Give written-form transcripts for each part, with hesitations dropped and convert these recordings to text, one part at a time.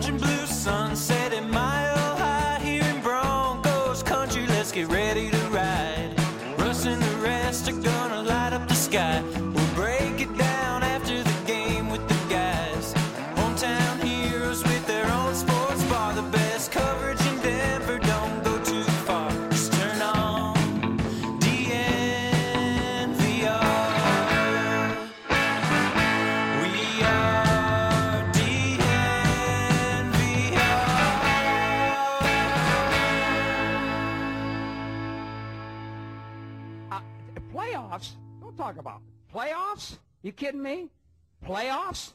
orange and blue sunset at Mile High here in Broncos country. Let's get ready to ride. Russ and the rest are gonna light up the sky. We'll break it down after the game with the guys. Hometown heroes with their own sports bar. The best coverage in Denver, don't go too far. Just turn on DNVR. We are Playoffs? Don't talk about playoffs. You kidding me? Playoffs?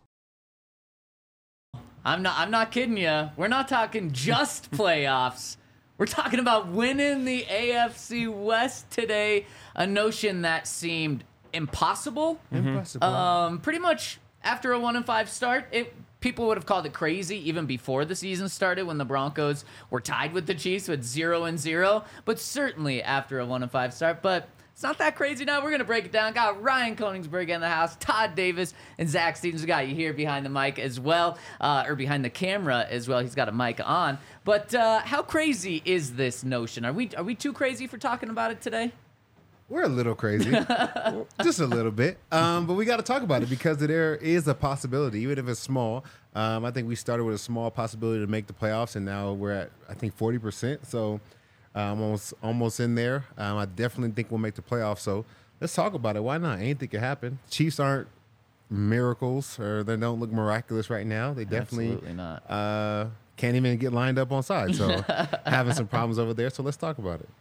I'm not kidding you. We're not talking just playoffs. We're talking about winning the AFC West today, a notion that seemed impossible. Pretty much after a 1-5 start, people would have called it crazy even before the season started when the Broncos were tied with the Chiefs with 0-0, but certainly after a 1-5 start. But it's not that crazy now. We're going to break it down. Got Ryan Koenigsberg in the house, Todd Davis, and Zach Stevens. We got you here behind the mic as well, or behind the camera as well. He's got a mic on. But how crazy is this notion? Are we too crazy for talking about it today? We're a little crazy, just a little bit. But we got to talk about it because there is a possibility, even if it's small. I think we started with a small possibility to make the playoffs, and now we're at, I think, 40%. So almost in there. I definitely think we'll make the playoffs. So let's talk about it. Why not? Anything can happen. Chiefs aren't miracles, or they don't look miraculous right now. They definitely Absolutely not. Can't even get lined up on sides. So having some problems over there. So let's talk about it.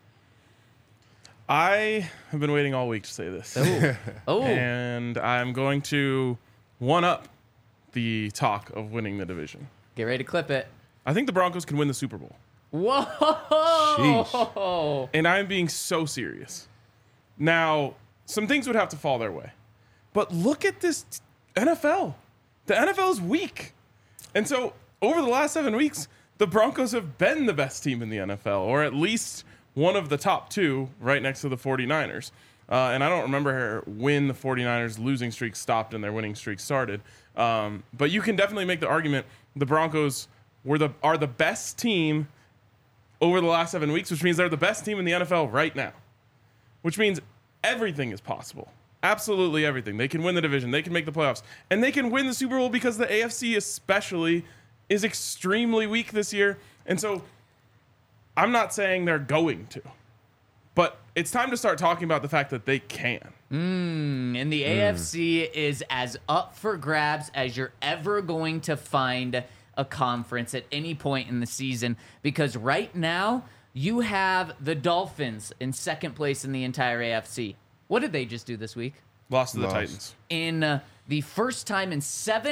I have been waiting all week to say this. Oh. And I'm going to one-up the talk of winning the division. Get ready to clip it. I think the Broncos can win the Super Bowl. Whoa! Sheesh. And I'm being so serious. Now, some things would have to fall their way. But look at this NFL. The NFL is weak. And so, over the last 7 weeks, the Broncos have been the best team in the NFL, or at least one of the top two, right next to the 49ers. And I don't remember when the 49ers losing streak stopped and their winning streak started. But you can definitely make the argument the Broncos are the best team over the last 7 weeks, which means they're the best team in the NFL right now, which means everything is possible. Absolutely everything. They can win the division. They can make the playoffs. And they can win the Super Bowl because the AFC especially is extremely weak this year. And so I'm not saying they're going to, but it's time to start talking about the fact that they can. And the AFC is as up for grabs as you're ever going to find a conference at any point in the season, because right now you have the Dolphins in second place in the entire AFC. What did they just do this week? Lost to the Titans. In the first time in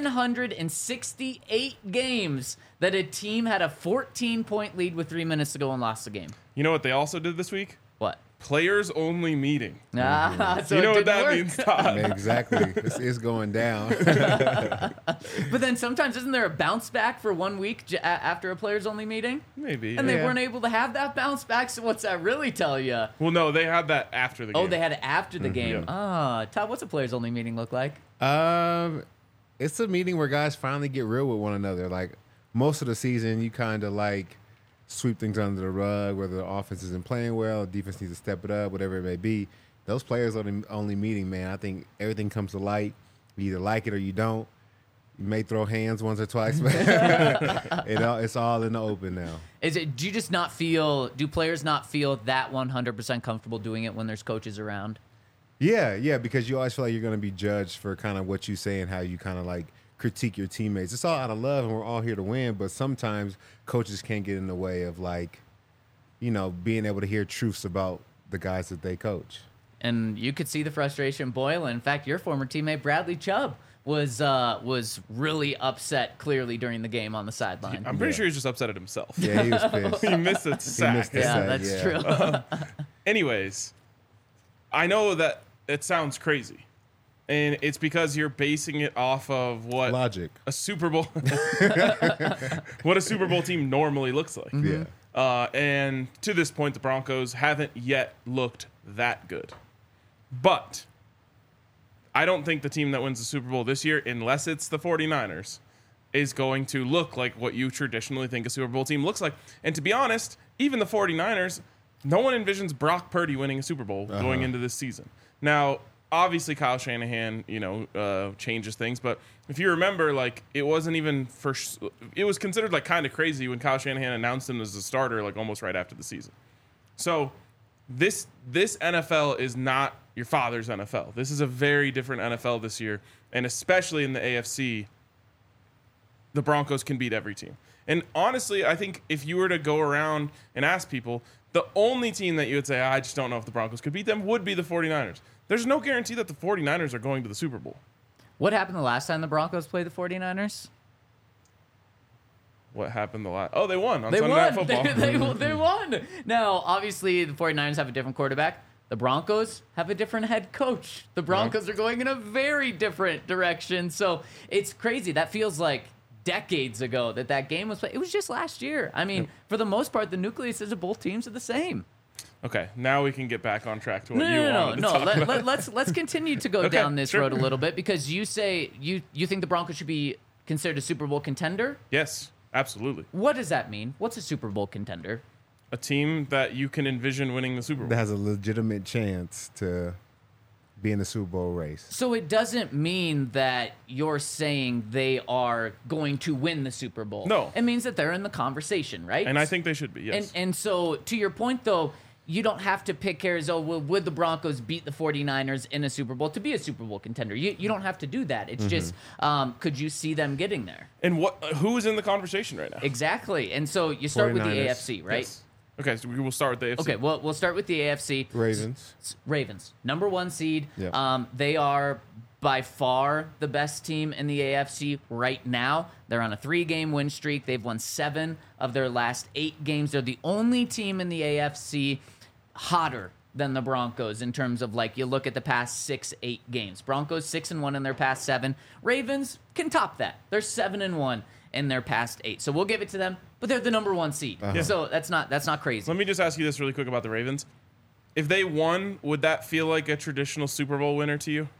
768 games that a team had a 14-point lead with 3 minutes to go and lost the game. You know what they also did this week? What? Players only meeting. So You know it what didn't that work. means, Todd? Exactly. It's going down. But then sometimes isn't there a bounce back for 1 week after a players only meeting? Maybe. And they Yeah. weren't able to have that bounce back, so what's that really tell you? Well, no, they had that after the game. Oh, they had it after the game. Yeah. Todd, what's a players only meeting look like? It's a meeting where guys finally get real with one another. Like most of the season, you kind of like sweep things under the rug, whether the offense isn't playing well, the defense needs to step it up, whatever it may be. Those players only meeting, man. I think everything comes to light. You either like it or you don't. You may throw hands once or twice, but it's all in the open now. Do players not feel that 100% comfortable doing it when there's coaches around? Yeah, because you always feel like you're going to be judged for kind of what you say and how you kind of like critique your teammates. It's all out of love and we're all here to win, but sometimes coaches can get in the way of like, being able to hear truths about the guys that they coach. And you could see the frustration boil. In fact, your former teammate Bradley Chubb was really upset clearly during the game on the sideline. I'm pretty sure he's just upset at himself. Yeah, he was pissed. He missed a sack. That's true. Anyways, I know that it sounds crazy. And it's because you're basing it off of what Logic. a Super Bowl what a Super Bowl team normally looks like. Yeah. And to this point, the Broncos haven't yet looked that good. But I don't think the team that wins the Super Bowl this year, unless it's the 49ers, is going to look like what you traditionally think a Super Bowl team looks like. And to be honest, even the 49ers, no one envisions Brock Purdy winning a Super Bowl going into this season. Now, obviously Kyle Shanahan, changes things, but if you remember, like, it wasn't even it was considered like kind of crazy when Kyle Shanahan announced him as a starter, like almost right after the season. So this NFL is not your father's NFL. This is a very different NFL this year, and especially in the AFC, the Broncos can beat every team. And honestly, I think if you were to go around and ask people, the only team that you would say, I just don't know if the Broncos could beat them, would be the 49ers. There's no guarantee that the 49ers are going to the Super Bowl. What happened the last time the Broncos played the 49ers? What happened the last? Oh, they won on They Sunday won. Night Football. They won. Now, obviously, the 49ers have a different quarterback. The Broncos have a different head coach. The Broncos are going in a very different direction. So it's crazy. That feels like decades ago that game was played. It was just last year. I mean, for the most part, the nucleus of both teams are the same. Okay, now we can get back on track to what you wanted to talk about. Let's continue to go down this road a little bit, because you say you think the Broncos should be considered a Super Bowl contender. Yes, absolutely. What does that mean? What's a Super Bowl contender? A team that you can envision winning the Super Bowl. That has a legitimate chance to be in the Super Bowl race. So it doesn't mean that you're saying they are going to win the Super Bowl. No. It means that they're in the conversation, right? And I think they should be, yes. And so, to your point, though, you don't have to pick Arizona. Would the Broncos beat the 49ers in a Super Bowl to be a Super Bowl contender? You don't have to do that. It's just, could you see them getting there? And who is in the conversation right now? Exactly. And so you start with the 49ers. AFC, right? Yes. Okay, so we will start with the AFC. Okay, well, we'll start with the AFC. Ravens, number 1 seed. Yeah. They are by far the best team in the AFC right now. They're on a 3-game win streak. They've won 7 of their last 8 games. They're the only team in the AFC hotter than the Broncos in terms of, like, you look at the past 6-8 games. Broncos 6-1 in their past 7. Ravens can top that. They're 7-1 in their past 8. So we'll give it to them, but they're the number 1 seed. So that's not crazy. Let me just ask you this really quick about the Ravens. If they won, would that feel like a traditional Super Bowl winner to you?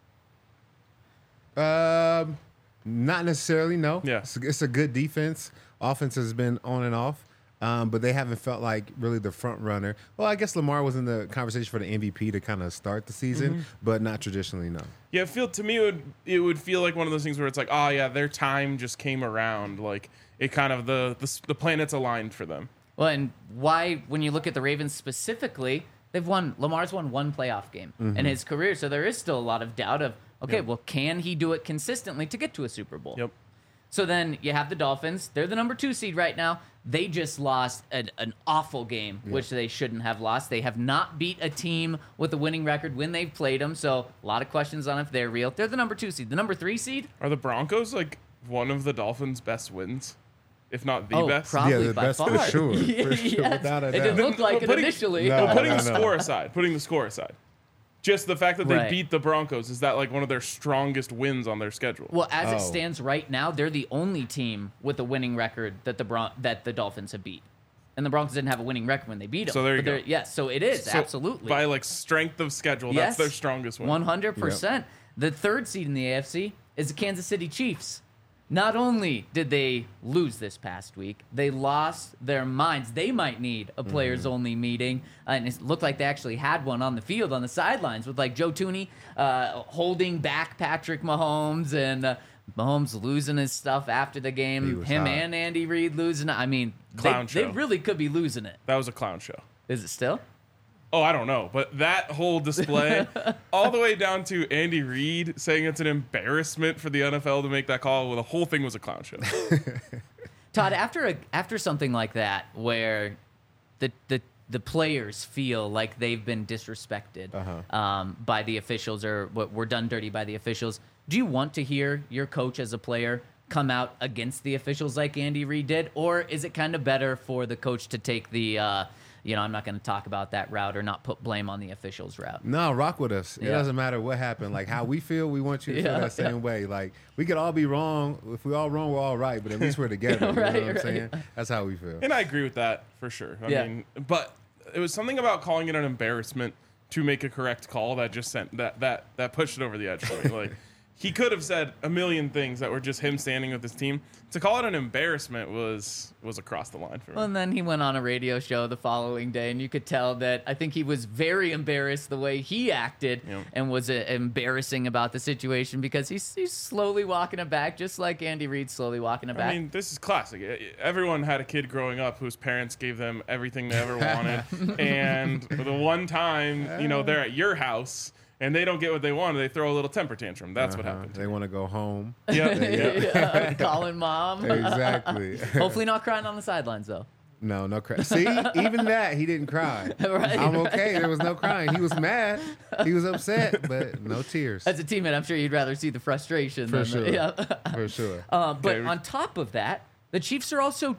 Not necessarily, no. Yeah. It's a good defense. Offense has been on and off, but they haven't felt like really the front runner. Well, I guess Lamar was in the conversation for the MVP to kind of start the season, but not traditionally, no. Yeah, to me it would feel like one of those things where it's like, oh yeah, their time just came around. Like it kind of the planets aligned for them. Well, and why, when you look at the Ravens specifically, Lamar's won 1 playoff game in his career, so there is still a lot of doubt of, okay, well, can he do it consistently to get to a Super Bowl? Yep. So then you have the Dolphins. They're the number 2 seed right now. They just lost an awful game, which they shouldn't have lost. They have not beat a team with a winning record when they've played them, so a lot of questions on if they're real. They're the number 2 seed. The number 3 seed? Are the Broncos like one of the Dolphins' best wins? If not the best? Probably the by best far. for sure. For sure, Yes. without a It doubt. didn't look like it Putting- initially. No. Putting the score aside. Just the fact that they Right. beat the Broncos, is that like one of their strongest wins on their schedule? Well, as it Oh. stands right now, they're the only team with a winning record that the Dolphins have beat. And the Broncos didn't have a winning record when they beat them. So there you But go. they're- Yes, so it is, So absolutely. By like strength of schedule, that's their strongest win. 100%. The 3rd seed in the AFC is the Kansas City Chiefs. Not only did they lose this past week, they lost their minds. They might need a players-only meeting, and it looked like they actually had one on the field, on the sidelines, with like Joe Tooney holding back Patrick Mahomes, and Mahomes losing his stuff after the He game. was Him hot. and Andy Reid losing it. I mean, Clown they show. really could be losing it. That was a clown show. Is it still? Oh, I don't know. But that whole display, all the way down to Andy Reid saying it's an embarrassment for the NFL to make that call, well, the whole thing was a clown show. Todd, after something like that, where the players feel like they've been disrespected by the officials, or were done dirty by the officials, do you want to hear your coach as a player come out against the officials like Andy Reid did, or is it kind of better for the coach to take the I'm not going to talk about that route, or not put blame on the officials route? No, rock with us. It Yeah. doesn't matter what happened. Like how we feel, we want you to feel Yeah, that same way. Like we could all be wrong. If we all wrong, we're all right. But at least we're together. Right, you know what I'm right. saying? That's how we feel. And I agree with that for sure. I Yeah. mean, but it was something about calling it an embarrassment to make a correct call that just sent that pushed it over the edge for me. Like he could have said a million things that were just him standing with his team. To call it an embarrassment was across the line for me. Well, and then he went on a radio show the following day, and you could tell that I think he was very embarrassed the way he acted and was embarrassing about the situation because he's slowly walking it back, just like Andy Reid slowly walking it back. I mean, this is classic. Everyone had a kid growing up whose parents gave them everything they ever wanted. And the one time, they're at your house and they don't get what they want, they throw a little temper tantrum. That's what happened. They want to go home. Yeah. Calling mom. Exactly. Hopefully not crying on the sidelines, though. No cry. See, even that, he didn't cry. Right, I'm okay. There was no crying. He was mad. He was upset, but no tears. As a teammate, I'm sure you'd rather see the frustration. For sure. Yeah. For sure. But on top of that, the Chiefs are also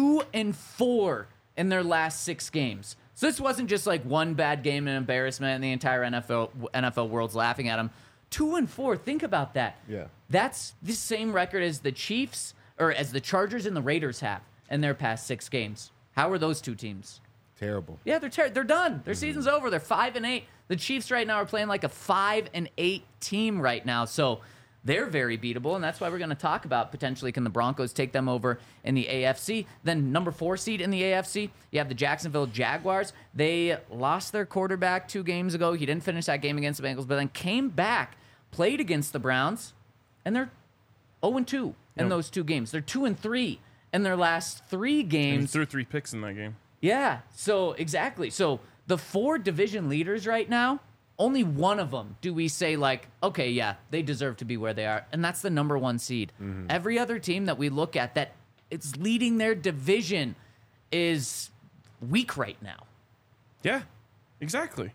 2-4 in their last 6 games. So this wasn't just like one bad game and embarrassment and the entire NFL world's laughing at them. 2-4. Think about that. Yeah. That's the same record as the Chiefs or as the Chargers and the Raiders have in their past 6 games. How are those two teams? Terrible. Yeah, they're done. Their season's over. They're 5-8. The Chiefs right now are playing like a 5-8 team right now. So they're very beatable, and that's why we're going to talk about potentially can the Broncos take them over in the AFC. Then number 4 seed in the AFC, you have the Jacksonville Jaguars. They lost their quarterback 2 games ago. He didn't finish that game against the Bengals, but then came back, played against the Browns, and they're 0-2 in those 2 games. They're 2-3 in their last 3 games. And he threw 3 picks in that game. Yeah, so exactly. So the 4 division leaders right now, only one of them do we say like, okay, yeah, they deserve to be where they are, and that's the number 1 seed. Every other team that we look at that it's leading their division is weak right now. Yeah, exactly.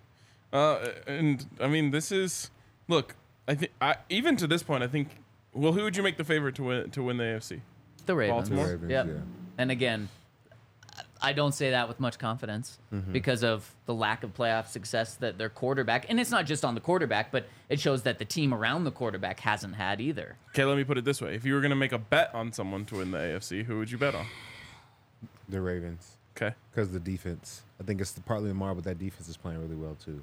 And I mean, this is look. I think even to this point, I think. Well, who would you make the favorite to win the AFC? The Ravens. Baltimore? The Ravens, Yep. yeah. And again, I don't say that with much confidence because of the lack of playoff success that their quarterback, and it's not just on the quarterback, but it shows that the team around the quarterback hasn't had either. Okay, let me put it this way: if you were going to make a bet on someone to win the AFC, who would you bet on? The Ravens. Okay. Because of the defense. I think it's partly the mark, but that defense is playing really well, too.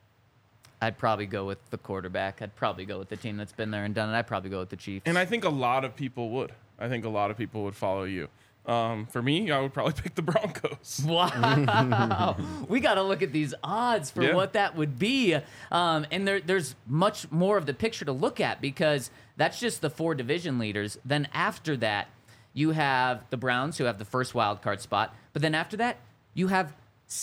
I'd probably go with the quarterback. I'd probably go with the team that's been there and done it. I'd probably go with the Chiefs. And I think a lot of people would. I think a lot of people would follow you. For me, I would probably pick the Broncos. Wow. We got to look at these odds for what that would be. And there's much more of the picture to look at because that's just the 4 division leaders. Then after that, you have the Browns who have the first wild card spot. But then after that, you have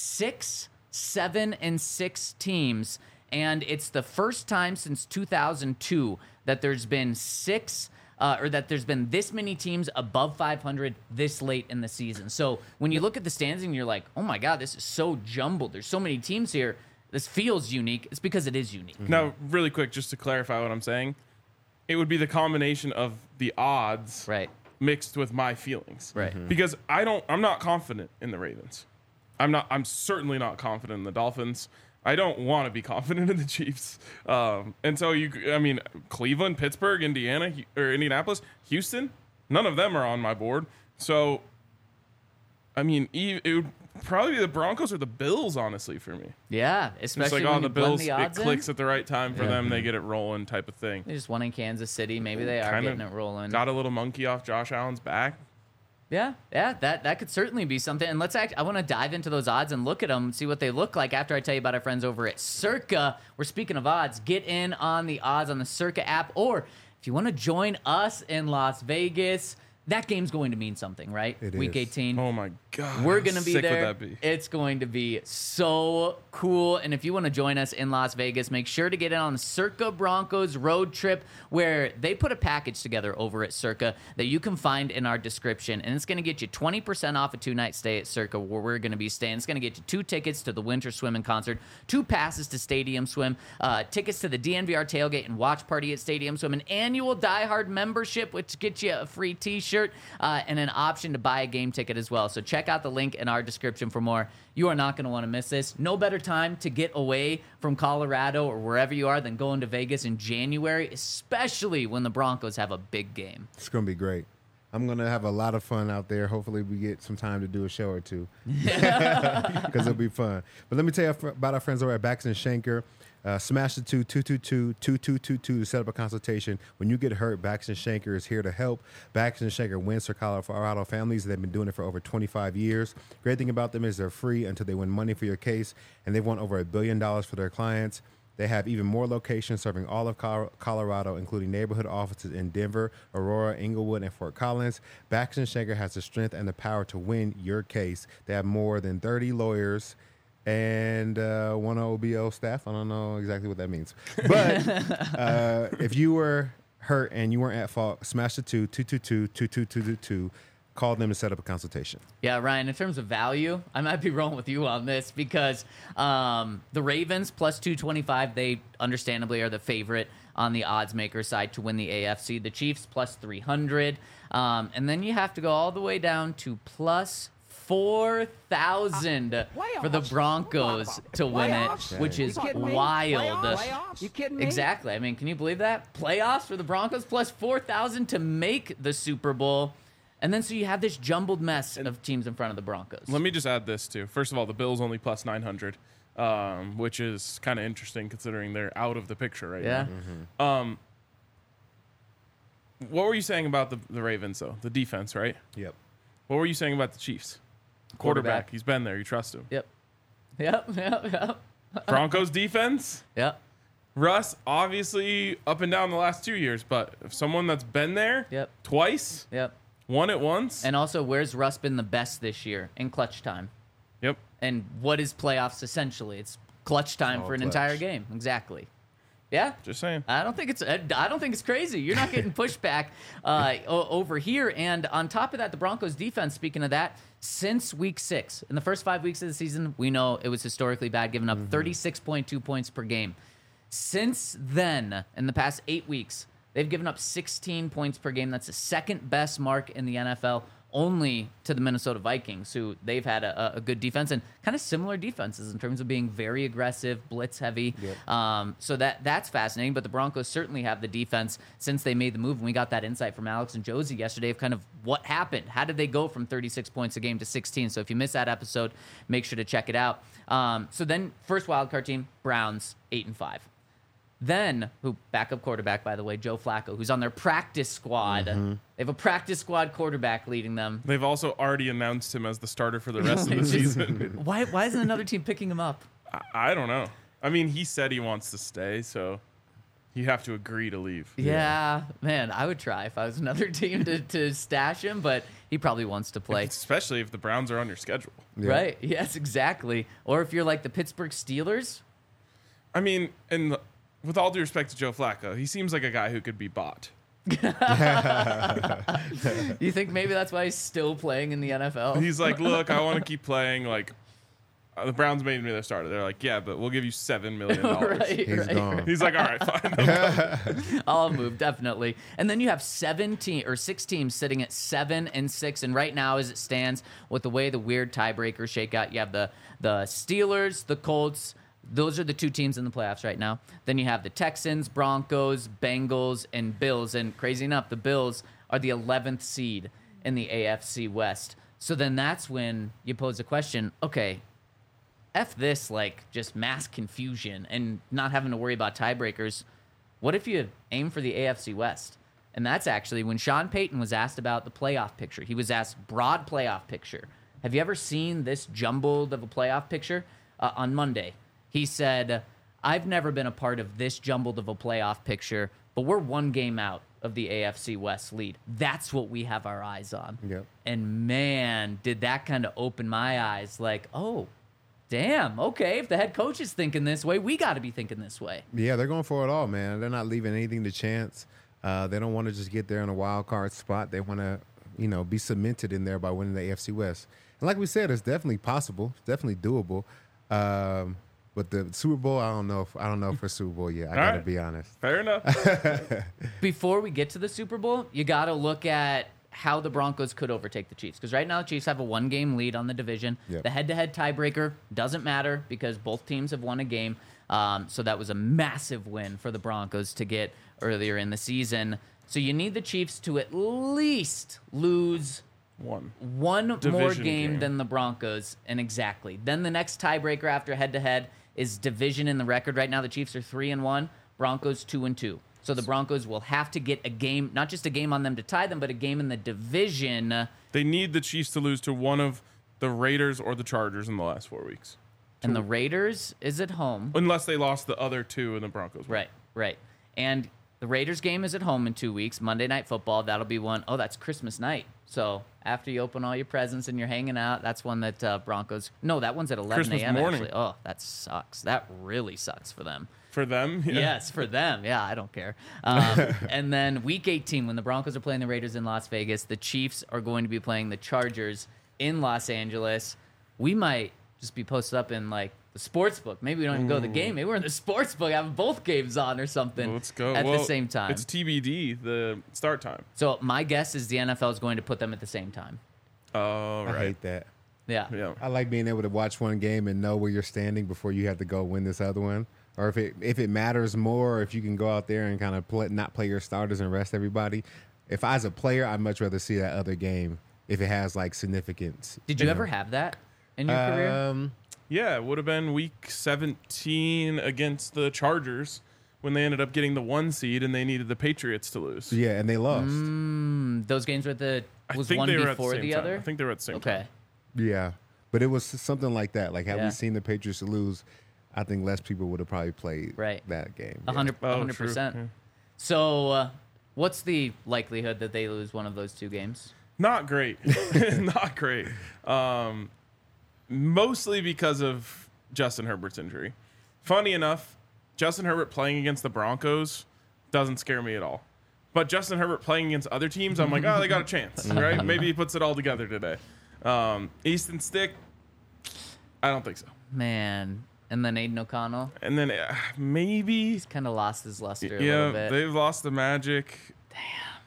6, 7, and 6 teams. And it's the first time since 2002 that there's been 6 or that there's been this many teams above 500 this late in the season. So when you look at the standings and you're like, oh my God, this is so jumbled. There's so many teams here. This feels unique. It's because it is unique. Now, really quick, just to clarify what I'm saying, it would be the combination of the odds Right. mixed with my feelings. Right. Because I'm not confident in the Ravens. I'm certainly not confident in the Dolphins. I don't want to be confident in the Chiefs. And so Cleveland, Pittsburgh, Indianapolis, Houston, none of them are on my board. So, I mean, it would probably be the Broncos or the Bills, honestly, for me. Yeah, It's especially like, when the you blend Bills, the it odds clicks in. at the right time for them. They get it rolling type of thing. They just won in Kansas City. Maybe they are Kinda getting it rolling. Got a little monkey off Josh Allen's back. Yeah, that could certainly be something. And I want to dive into those odds and look at them, see what they look like after I tell you about our friends over at Circa. We're speaking of odds. Get in on the odds on the Circa app, or if you want to join us in Las Vegas, that game's going to mean something, right? It Week is. 18. Oh my God. We're how going to be sick there. Would that be? It's going to be so cool. And if you want to join us in Las Vegas, make sure to get in on the Circa Broncos road trip, where they put a package together over at Circa that you can find in our description. And it's going to get you 20% off a 2-night stay at Circa, where we're going to be staying. It's going to get you 2 tickets to the Winter Swimming Concert, 2 passes to Stadium Swim, tickets to the DNVR tailgate and watch party at Stadium Swim, an annual Die Hard membership, which gets you a free t-shirt, and an option to buy a game ticket as well. So check out the link in our description for more. You are not going to want to miss this. No better time to get away from Colorado or wherever you are than going to Vegas in January, especially when the Broncos have a big game. It's going to be great. I'm going to have a lot of fun out there. Hopefully we get some time to do a show or two because it'll be fun. But let me tell you about our friends over at Baxton Schenker. Smash the 222-2222 to set up a consultation. When you get hurt, Baxter Shanker is here to help. Baxter Shanker wins for Colorado families. They've been doing it for over 25 years. Great thing about them is they're free until they win money for your case, and they've won over $1 billion for their clients. They have even more locations serving all of Colorado, including neighborhood offices in Denver, Aurora, Inglewood, and Fort Collins. Baxter Shanker has the strength and the power to win your case. They have more than 30 lawyers and one OBO staff. I don't know exactly what that means. But if you were hurt and you weren't at fault, smash the 222-2222. Call them to set up a consultation. Yeah, Ryan, in terms of value, I might be rolling with you on this because the Ravens plus 225, they understandably are the favorite on the odds maker side to win the AFC. The Chiefs plus 300. And then you have to go all the way down to plus 4,000 for the Broncos to win it, which is wild. Playoffs? You kidding me? Exactly. I mean, can you believe that? Playoffs for the Broncos plus 4,000 to make the Super Bowl. And then so you have this jumbled mess of teams in front of the Broncos. Let me just add this too. First of all, the Bills only plus 900, which is kind of interesting considering they're out of the picture right now. Yeah. What were you saying about the Ravens though? The defense, right? Yep. What were you saying about the Chiefs? Quarterback. He's been there. You trust him. Yep. Broncos defense. Yep. Russ, obviously up and down the last 2 years, but if someone that's been there Yep. twice, Yep. won it once. And also, where's Russ been the best this year in clutch time? Yep. And what is playoffs essentially? It's clutch time for an clutch. entire game. Exactly. Yeah. Just saying. I don't think it's crazy. You're not getting pushback over here. And on top of that, the Broncos defense, speaking of that, since week 6, in the first 5 weeks of the season, we know it was historically bad, giving up 36.2 points per game. Since then, in the past 8 weeks, they've given up 16 points per game. That's the second best mark in the NFL, only to the Minnesota Vikings, who they've had a good defense and kind of similar defenses in terms of being very aggressive, blitz heavy. Yep. So that's fascinating. But the Broncos certainly have the defense since they made the move. And we got that insight from Alex and Josie yesterday of kind of what happened. How did they go from 36 points a game to 16? So if you missed that episode, make sure to check it out. So then first wildcard team, Browns, 8-5. Then, backup quarterback, by the way, Joe Flacco, who's on their practice squad. They have a practice squad quarterback leading them. They've also already announced him as the starter for the rest of the season. Why isn't another team picking him up? I don't know. I mean, he said he wants to stay, so you have to agree to leave. Yeah, man, I would try if I was another team to stash him, but he probably wants to play. Especially if the Browns are on your schedule. Yeah. Right, yes, exactly. Or if you're like the Pittsburgh Steelers. I mean, with all due respect to Joe Flacco, he seems like a guy who could be bought. You think maybe that's why he's still playing in the NFL? He's like, look, I want to keep playing. Like, the Browns made me their starter. They're like, yeah, but we'll give you $7 million. Right. Gone. He's like, all right, fine. I'll move, definitely. And then you have 6 teams sitting at 7-6. And right now, as it stands, with the way the weird tiebreakers shake out, you have the Steelers, the Colts. Those are the 2 teams in the playoffs right now. Then you have the Texans, Broncos, Bengals, and Bills. And crazy enough, the Bills are the 11th seed in the AFC West. So then that's when you pose the question, okay, F this, like, just mass confusion and not having to worry about tiebreakers. What if you aim for the AFC West? And that's actually when Sean Payton was asked about the playoff picture. He was asked broad playoff picture. Have you ever seen this jumbled of a playoff picture? On Monday, he said, I've never been a part of this jumbled of a playoff picture, but we're 1 game out of the AFC West lead. That's what we have our eyes on. Yep. And man, did that kind of open my eyes like, oh, damn, okay, if the head coach is thinking this way, we got to be thinking this way. Yeah, they're going for it all, man. They're not leaving anything to chance. They don't want to just get there in a wild card spot. They want to, be cemented in there by winning the AFC West. And like we said, it's definitely possible. It's definitely doable. But the Super Bowl, I don't know for Super Bowl yet. I got to be honest. Fair enough. Before we get to the Super Bowl, you got to look at how the Broncos could overtake the Chiefs. Because right now, the Chiefs have a 1-game lead on the division. Yep. The head-to-head tiebreaker doesn't matter because both teams have won a game. So that was a massive win for the Broncos to get earlier in the season. So you need the Chiefs to at least lose one more Division game game. than the Broncos. And exactly. Then the next tiebreaker after head-to-head is division in the record right now. The Chiefs are 3-1, Broncos 2-2. So the Broncos will have to get a game, not just a game on them to tie them, but a game in the division. They need the Chiefs to lose to one of the Raiders or the Chargers in the last 4 weeks. And the Raiders is at home. Unless they lost the other two and the Broncos won. Right. And the Raiders game is at home in 2 weeks. Monday Night Football. That'll be one. Oh, that's Christmas night. So after you open all your presents and you're hanging out, that's one that Broncos. No, that one's at 11 Christmas a.m. morning. Actually. Oh, that sucks. That really sucks for them. For them? Yeah. Yes, for them. Yeah, I don't care. And then week 18, when the Broncos are playing the Raiders in Las Vegas, the Chiefs are going to be playing the Chargers in Los Angeles. We might just be posted up in like the sports book. Maybe we don't even go to the game. Maybe we're in the sports book having both games on or something. Let's go. At the same time. It's TBD, the start time. So my guess is the NFL is going to put them at the same time. Oh, I right. hate that. Yeah. Yeah. I like being able to watch one game and know where you're standing before you have to go win this other one. Or if it matters more, or if you can go out there and kind of not play your starters and rest everybody. If I was a player, I'd much rather see that other game if it has like significance. Did you ever have that in your career? Yeah, it would have been week 17 against the Chargers when they ended up getting the 1 seed and they needed the Patriots to lose. Yeah, and they lost. Those games were was one they were before at the, the same other? time. I think they were at the same time. Okay. Yeah, but it was something like that. Like, had Yeah. we seen the Patriots lose, I think less people would have probably played that game. Yeah. 100%. True. So what's the likelihood that they lose one of those two games? Not great. Not great. Mostly because of Justin Herbert's injury. Funny enough, Justin Herbert playing against the Broncos doesn't scare me at all. But Justin Herbert playing against other teams, I'm like, oh, they got a chance, right? Maybe he puts it all together today. Easton Stick, I don't think so. Man. And then Aiden O'Connell. And then maybe, He's kind of lost his luster a little bit. they've lost the magic. Damn.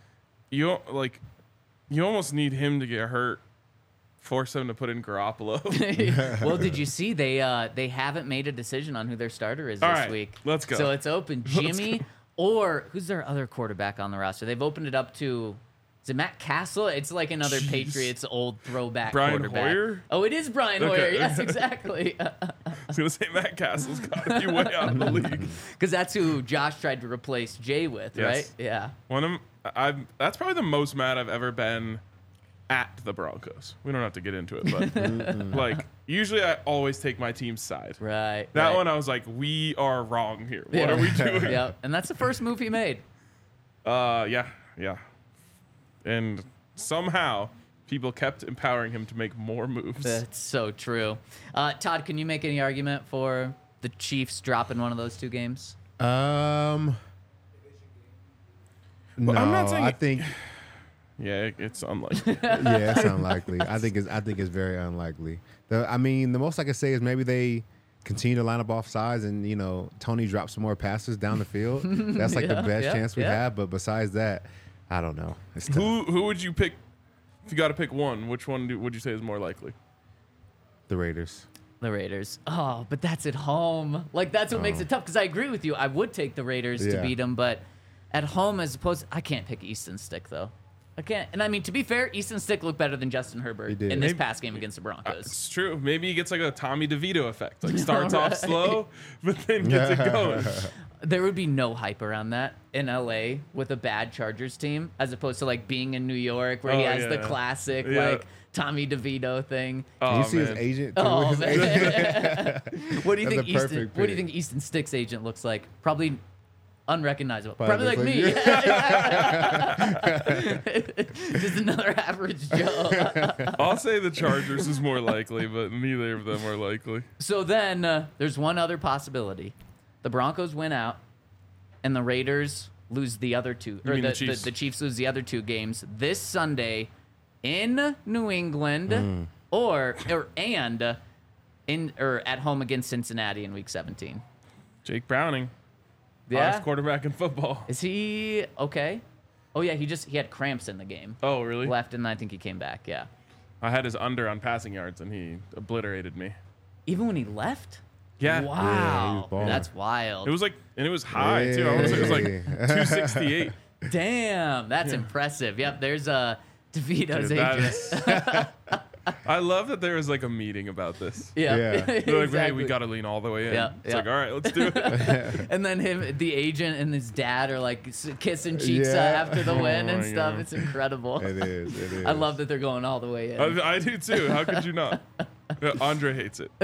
You almost need him to get hurt. Force them to put in Garoppolo. Well, did you see they haven't made a decision on who their starter is All this right, week? let's go. So it's open. Jimmy or who's their other quarterback on the roster? They've opened it up to, is it Matt Castle? It's like another Patriots old throwback Brian quarterback. Hoyer? Oh, it is Brian Okay. Hoyer. Yes, exactly. I was going to say Matt Castle's got to be way out of the league. Because that's who Josh tried to replace Jay with, Yes. right? Yeah. That's probably the most mad I've ever been at the Broncos. We don't have to get into it, but like usually I always take my team's side. Right. That right. one I was like, we are wrong here. What are we doing? Yeah, and that's the first move he made. Yeah. And somehow people kept empowering him to make more moves. That's so true. Todd, can you make any argument for the Chiefs dropping one of those two games? No, I'm not saying I it- think It's unlikely. yeah, it's unlikely. I think it's very unlikely. The most I could say is maybe they continue to line up off sides and Tony drops some more passes down the field. That's like the best chance we have. But besides that, I don't know. It's tough. Who would you pick if you got to pick one? Which one would you say is more likely? The Raiders. The Raiders. Oh, but that's at home. Like, that's what makes it tough, because I agree with you. I would take the Raiders to Yeah. beat them, but at home as opposed I can't pick Easton Stick, though. I can't. And I mean, to be fair, Easton Stick looked better than Justin Herbert He did. in this Maybe- past game against the Broncos. It's true. Maybe he gets like a Tommy DeVito effect. Like starts off slow, but then gets it going. There would be no hype around that in LA with a bad Chargers team, as opposed to like being in New York where he Oh, has the yeah. classic Yeah. like Tommy DeVito thing. Did you Oh, see man. his agent? Too? Oh His man. agent- What do you That's think a Easton? perfect What do you pick. think Easton Stick's agent looks like? Probably unrecognizable. Probably Probably like looks me. Just another average Joe. I'll say the Chargers is more likely, but neither of them are likely. So then there's one other possibility: the Broncos win out, and the Raiders lose the other two, You or mean the the Chiefs? the Chiefs lose the other two games this Sunday in New England, or at home against Cincinnati in Week 17. Jake Browning, Yeah, hottest quarterback in football. is he okay? Oh yeah, he had cramps in the game. Oh, really? Left, and I think he came back. Yeah, I had his under on passing yards, and he obliterated me. even when he left. Yeah. Wow, Yeah, he was balling. that's wild. It was like, and it was high too. I want to say it was like 268. Damn, that's impressive. Yep, there's DeVito's Dude, that agent. is- I love that there was like a meeting about this. Yeah. Yeah. They're like, hey, we Exactly. got to lean all the way in. Yeah, It's yeah. like, all right, let's do it. And then the agent and his dad are like kissing cheeks Yeah. after the win and my stuff. God. It's incredible. It is. I love that they're going all the way in. I do too. How could you not? Yeah, Andre hates it.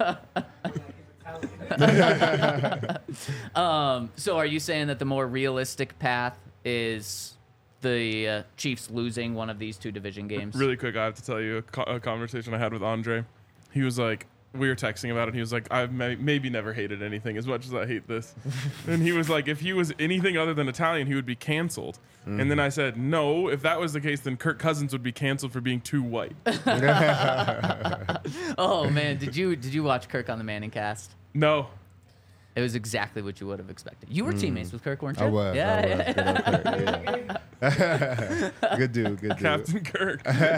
So are you saying that the more realistic path is the Chiefs losing one of these two division games? Really quick, I have to tell you a conversation I had with Andre. He was like, we were texting about it. He was like, I've maybe never hated anything as much as I hate this. And he was like, if he was anything other than Italian, he would be canceled. And then I said, no, if that was the case, then Kirk Cousins would be canceled for being too white. Oh man, did you watch Kirk on the Manning cast? No. It was exactly what you would have expected. You were teammates with Kirk, weren't you? I was. Yeah. Yeah. Good dude. Captain Kirk.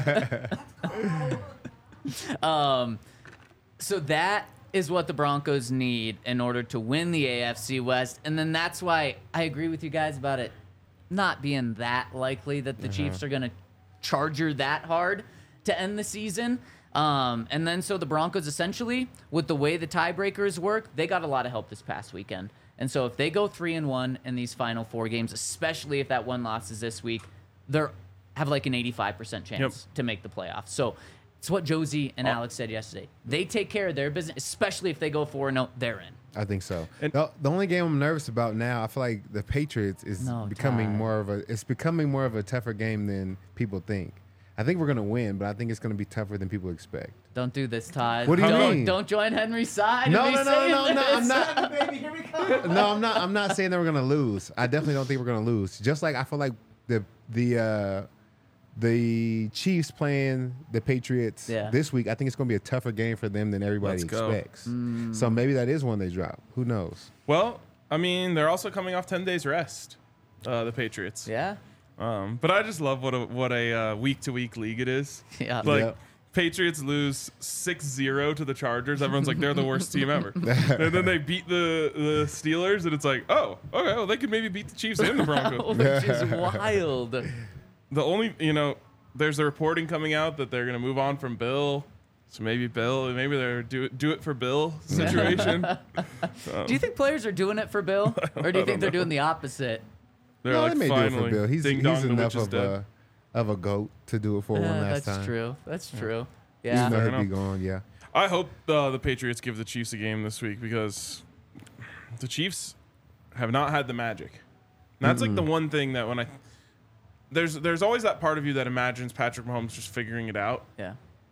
So that is what the Broncos need in order to win the AFC West. And then that's why I agree with you guys about it not being that likely that the Chiefs are going to charger that hard to end the season. And then so the Broncos essentially, with the way the tiebreakers work, they got a lot of help this past weekend. And so if they go 3-1 in these final 4 games, especially if that one loss is this week, they have like an 85% chance to make the playoffs. So it's what Josie and Alex said yesterday. They take care of their business, especially if they go 4-0, they're in. I think so. And- The only game I'm nervous about now, I feel like the Patriots is becoming Ty. more of a tougher game than people think. I think we're gonna win, but I think it's gonna be tougher than people expect. Don't do this, Todd. What do you mean? Don't join Henry's side. No, and be no, saying I'm this. not. Baby, here we come. No, I'm not saying that we're gonna lose. I definitely don't think we're gonna lose. Just like I feel like the Chiefs playing the Patriots this week, I think it's gonna be a tougher game for them than everybody Let's go. expects. So maybe that is one they drop. Who knows? Well, I mean, they're also coming off 10 days rest, the Patriots. Yeah. But I just love what a week-to-week league it is. Yeah. Like, Yep. Patriots lose 6-0 to the Chargers. Everyone's like, they're the worst team ever. And then they beat the Steelers, and it's like, oh, okay, well, they could maybe beat the Chiefs and the Broncos. Which is wild. The only, there's a reporting coming out that they're going to move on from Bill. So maybe they're do it for Bill situation. Do you think players are doing it for Bill? Or do you think they're doing the opposite? They're No, like, they may do it finally, for Bill. He's ding dong, the enough witch is dead. of a goat to do it for one last That's time. true. That's true. Even Yeah. though Fair he'll be enough. gone, yeah. I hope the Patriots give the Chiefs a game this week because the Chiefs have not had the magic. And that's like the one thing that when there's always that part of you that imagines Patrick Mahomes just figuring it out. Yeah.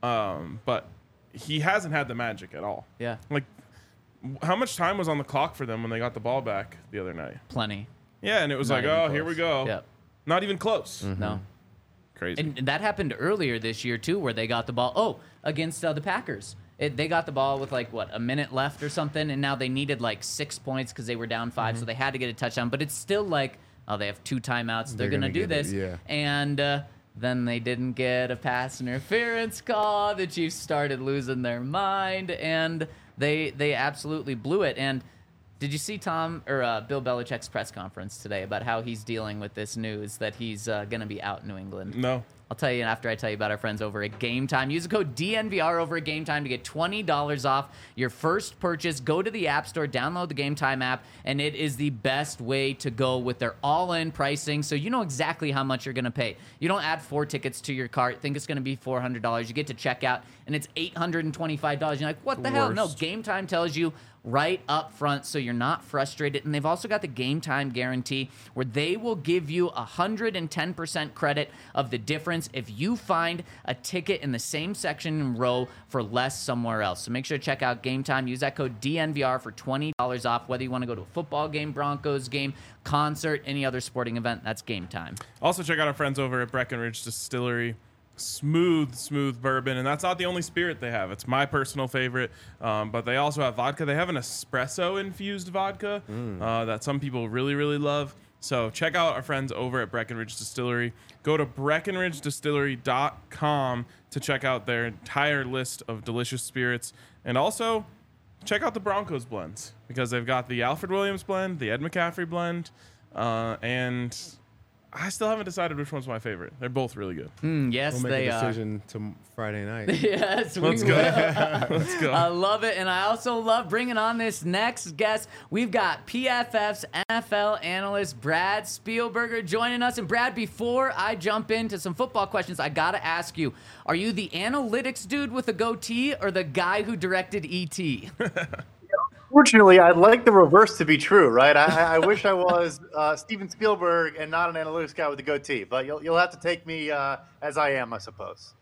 But he hasn't had the magic at all. Yeah. Like, how much time was on the clock for them when they got the ball back the other night? Plenty. Yeah, and it was Not like, even oh, close. here we go. Yeah. Not even close. No. Crazy. And that happened earlier this year too, where they got the ball. Against the Packers, they got the ball with a minute left or something, and now they needed 6 points because they were down 5, so they had to get a touchdown. But it's still they have 2 timeouts. They're gonna do get it, this, yeah. and then they didn't get a pass interference call. The Chiefs started losing their mind, and they absolutely blew it. And did you see Bill Belichick's press conference today about how he's dealing with this news that he's gonna be out in New England? No. I'll tell you after I tell you about our friends over at Game Time. Use the code DNVR over at Game Time to get $20 off your first purchase. Go to the App Store, download the Game Time app, and it is the best way to go with their all-in pricing, so you know exactly how much you're going to pay. You don't add 4 tickets to your cart, think it's going to be $400. You get to checkout, and it's $825. You're like, what the hell? No, Worst. Game Time tells you right up front so you're not frustrated. And they've also got the Game Time guarantee where they will give you 110% credit of the difference if you find a ticket in the same section and row for less somewhere else. So make sure to check out Game Time. Use that code DNVR for $20 off, whether you want to go to a football game, Broncos game, concert, any other sporting event. That's Game Time. Also, check out our friends over at Breckenridge Distillery. Smooth bourbon, and that's not the only spirit they have. It's my personal favorite, but they also have vodka. They have an espresso infused vodka that some people really love. So check out our friends over at Breckenridge Distillery. Go to BreckenridgeDistillery.com to check out their entire list of delicious spirits, and also check out the Broncos blends because they've got the Alfred Williams blend, the Ed McCaffrey blend, and I still haven't decided which one's my favorite. They're both really good. Yes, We'll make they a are. decision to Friday night. Yes, Let's we go. will. Let's go. I love it, and I also love bringing on this next guest. We've got PFF's NFL analyst Brad Spielberger joining us. And Brad, before I jump into some football questions, I gotta ask you: are you the analytics dude with a goatee, or the guy who directed E.T.? Fortunately, I'd like the reverse to be true, right? I wish I was Steven Spielberg and not an analytics guy with a goatee, but you'll have to take me as I am, I suppose.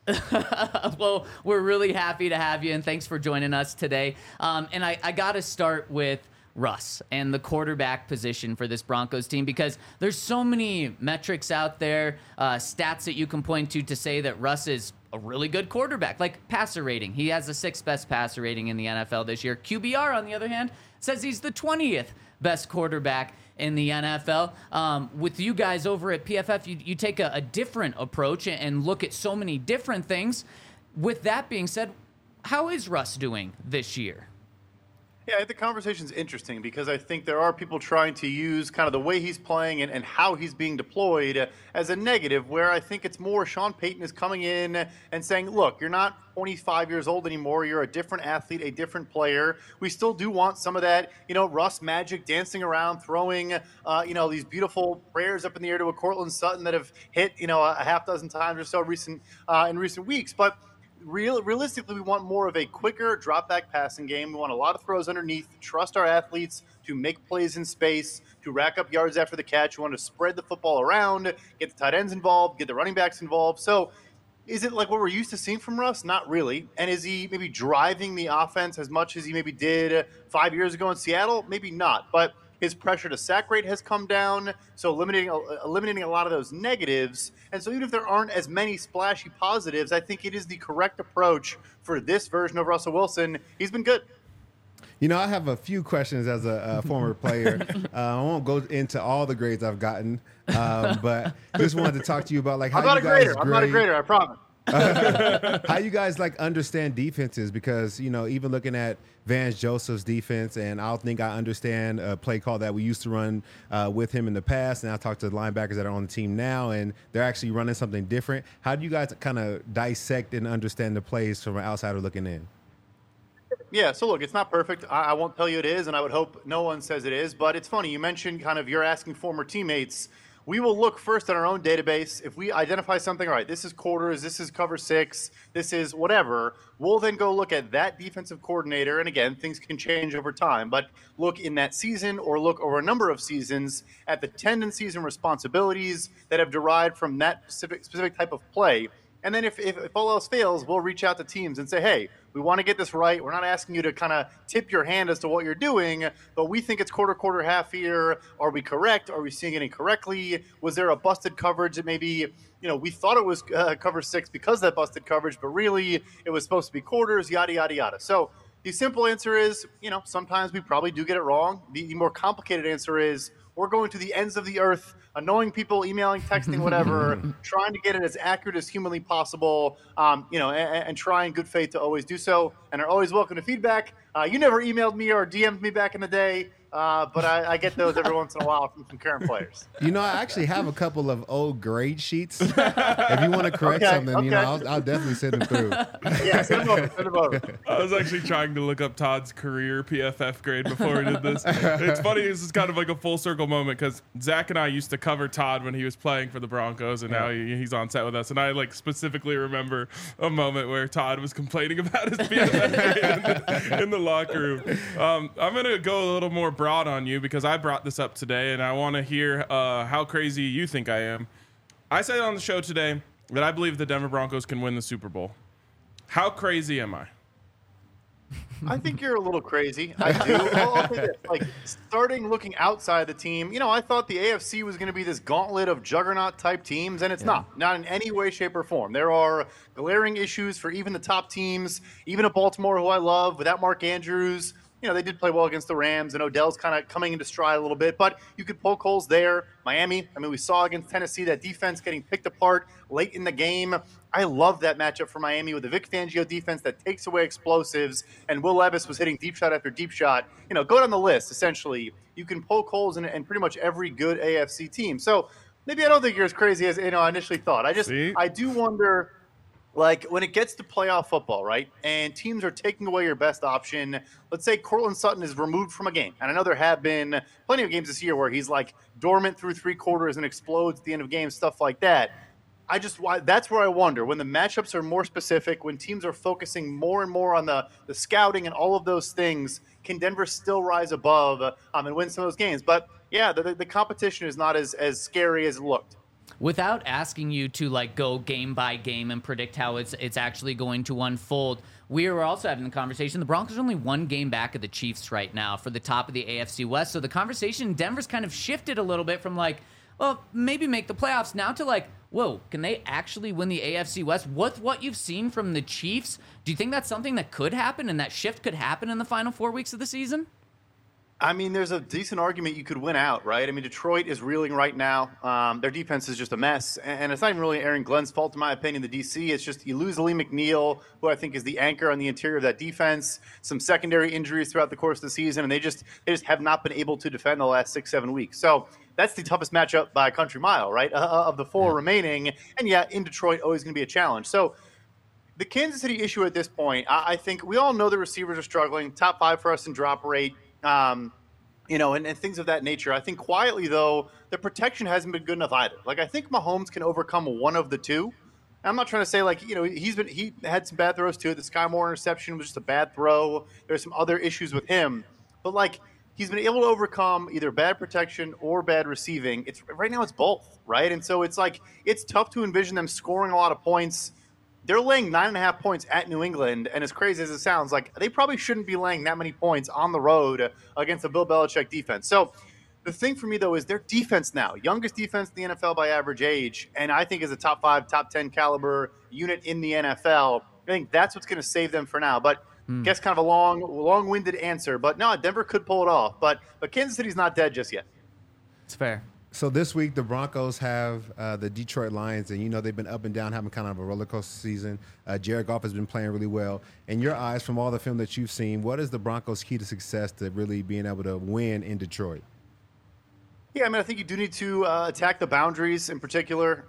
Well, we're really happy to have you, and thanks for joining us today. And I got to start with Russ and the quarterback position for this Broncos team, because there's so many metrics out there, stats that you can point to say that Russ is a really good quarterback, like passer rating. He has the 6th best passer rating in the NFL this year. QBR, on the other hand, says he's the 20th best quarterback in the NFL. With you guys over at PFF, you take a different approach and look at so many different things. With that being said, how is Russ doing this year? Yeah, I think the conversation's interesting because I think there are people trying to use kind of the way he's playing and how he's being deployed as a negative, where I think it's more Sean Payton is coming in and saying, look, you're not 25 years old anymore. You're a different athlete, a different player. We still do want some of that, Russ magic, dancing around, throwing, these beautiful prayers up in the air to a Cortland Sutton that have hit, a half dozen times or so in recent weeks. But realistically, we want more of a quicker drop-back passing game. We want a lot of throws underneath, trust our athletes to make plays in space, to rack up yards after the catch. We want to spread the football around, get the tight ends involved, get the running backs involved. So is it like what we're used to seeing from Russ? Not really. And is he maybe driving the offense as much as he maybe did 5 years ago in Seattle? Maybe not. But his pressure to sack rate has come down, so eliminating a lot of those negatives. And so even if there aren't as many splashy positives, I think it is the correct approach for this version of Russell Wilson. He's been good. I have a few questions as a former player. I won't go into all the grades I've gotten, but just wanted to talk to you about how I'm not you guys I'm not a grader, I promise. How you guys understand defenses, because even looking at Vance Joseph's defense, and I don't think I understand a play call that we used to run with him in the past, and I talked to the linebackers that are on the team now, and they're actually running something different. How do you guys kind of dissect and understand the plays from an outsider looking in? Yeah, so look, it's not perfect. I won't tell you it is, and I would hope no one says it is, but it's funny. You mentioned kind of you're asking former teammates. We will look first at our own database. If we identify something, all right, this is quarters, this is cover 6, this is whatever, we'll then go look at that defensive coordinator. And again, things can change over time, but look in that season or look over a number of seasons at the tendencies and responsibilities that have derived from that specific type of play. And then if all else fails, we'll reach out to teams and say, hey, we want to get this right. We're not asking you to kind of tip your hand as to what you're doing, but we think it's quarter, half here. Are we correct? Are we seeing it incorrectly? Was there a busted coverage that maybe, we thought it was cover 6 because of that busted coverage, but really it was supposed to be quarters, yada, yada, yada. So the simple answer is, sometimes we probably do get it wrong. The more complicated answer is we're going to the ends of the earth, annoying people, emailing, texting, whatever, trying to get it as accurate as humanly possible, and try in good faith to always do so, and are always welcome to feedback. You never emailed me or DM'd me back in the day, but I get those every once in a while from some current players. I actually have a couple of old grade sheets. If you want to correct something, I'll definitely send them through. Yeah, send them over. I was actually trying to look up Todd's career PFF grade before we did this. It's funny, this is kind of like a full circle moment, because Zach and I used to cover Todd when he was playing for the Broncos, and now he's on set with us. And I specifically remember a moment where Todd was complaining about his PFF grade in the locker room. I'm going to go a little more broad on you, because I brought this up today, and I want to hear how crazy you think I am. I said on the show today that I believe the Denver Broncos can win the Super Bowl. How crazy am I? I think you're a little crazy. I do. I'll say this. Starting looking outside the team, I thought the AFC was going to be this gauntlet of juggernaut-type teams, and it's not in any way, shape, or form. There are glaring issues for even the top teams, even a Baltimore, who I love, without Mark Andrews. They did play well against the Rams, and Odell's kind of coming into stride a little bit, but you could poke holes there. Miami, we saw against Tennessee that defense getting picked apart late in the game. I love that matchup for Miami with the Vic Fangio defense that takes away explosives, and Will Levis was hitting deep shot after deep shot. Go down the list, essentially. You can poke holes in pretty much every good AFC team. So maybe I don't think you're as crazy as I initially thought. I do wonder, like when it gets to playoff football, right? And teams are taking away your best option. Let's say Cortland Sutton is removed from a game, and I know there have been plenty of games this year where he's like dormant through 3 quarters and explodes at the end of games, stuff like that. That's where I wonder when the matchups are more specific, when teams are focusing more and more on the scouting and all of those things. Can Denver still rise above and win some of those games? But yeah, the competition is not as scary as it looked. Without asking you to like go game by game and predict how it's actually going to unfold, we were also having the conversation. The Broncos are only 1 game back of the Chiefs right now for the top of the AFC West. So the conversation in Denver's kind of shifted a little bit from like, well, maybe make the playoffs now to like, whoa, can they actually win the AFC West? With what you've seen from the Chiefs, do you think that's something that could happen and that shift could happen in the final 4 weeks of the season? I mean, there's a decent argument you could win out, right? I mean, Detroit is reeling right now. Their defense is just a mess. And it's not even really Aaron Glenn's fault, in my opinion, the DC. It's just you lose Lee McNeil, who I think is the anchor on the interior of that defense, some secondary injuries throughout the course of the season, and they just have not been able to defend the last 6-7 weeks. So that's the toughest matchup by a country mile, right, of the 4 remaining. And, yeah, in Detroit, always going to be a challenge. So the Kansas City issue at this point, I think we all know the receivers are struggling, top 5 for us in drop rate. And things of that nature. I think quietly, though, the protection hasn't been good enough either. Like, I think Mahomes can overcome one of the two. I'm not trying to say, like, he had some bad throws, too. The Sky Moore interception was just a bad throw. There's some other issues with him. But, like, he's been able to overcome either bad protection or bad receiving. Right now it's both, right? And so it's, like, it's tough to envision them scoring a lot of points. They're laying 9.5 points at New England, and as crazy as it sounds, like they probably shouldn't be laying that many points on the road against a Bill Belichick defense. So the thing for me, though, is their defense now, youngest defense in the NFL by average age, and I think is a top 5, top 10 caliber unit in the NFL. I think that's what's going to save them for now. But I guess kind of a long-winded answer. But no, Denver could pull it off. But Kansas City's not dead just yet. It's fair. So this week, the Broncos have the Detroit Lions, and they've been up and down, having kind of a roller coaster season. Jared Goff has been playing really well. In your eyes, from all the film that you've seen, what is the Broncos' key to success to really being able to win in Detroit? Yeah, I mean, I think you do need to attack the boundaries in particular.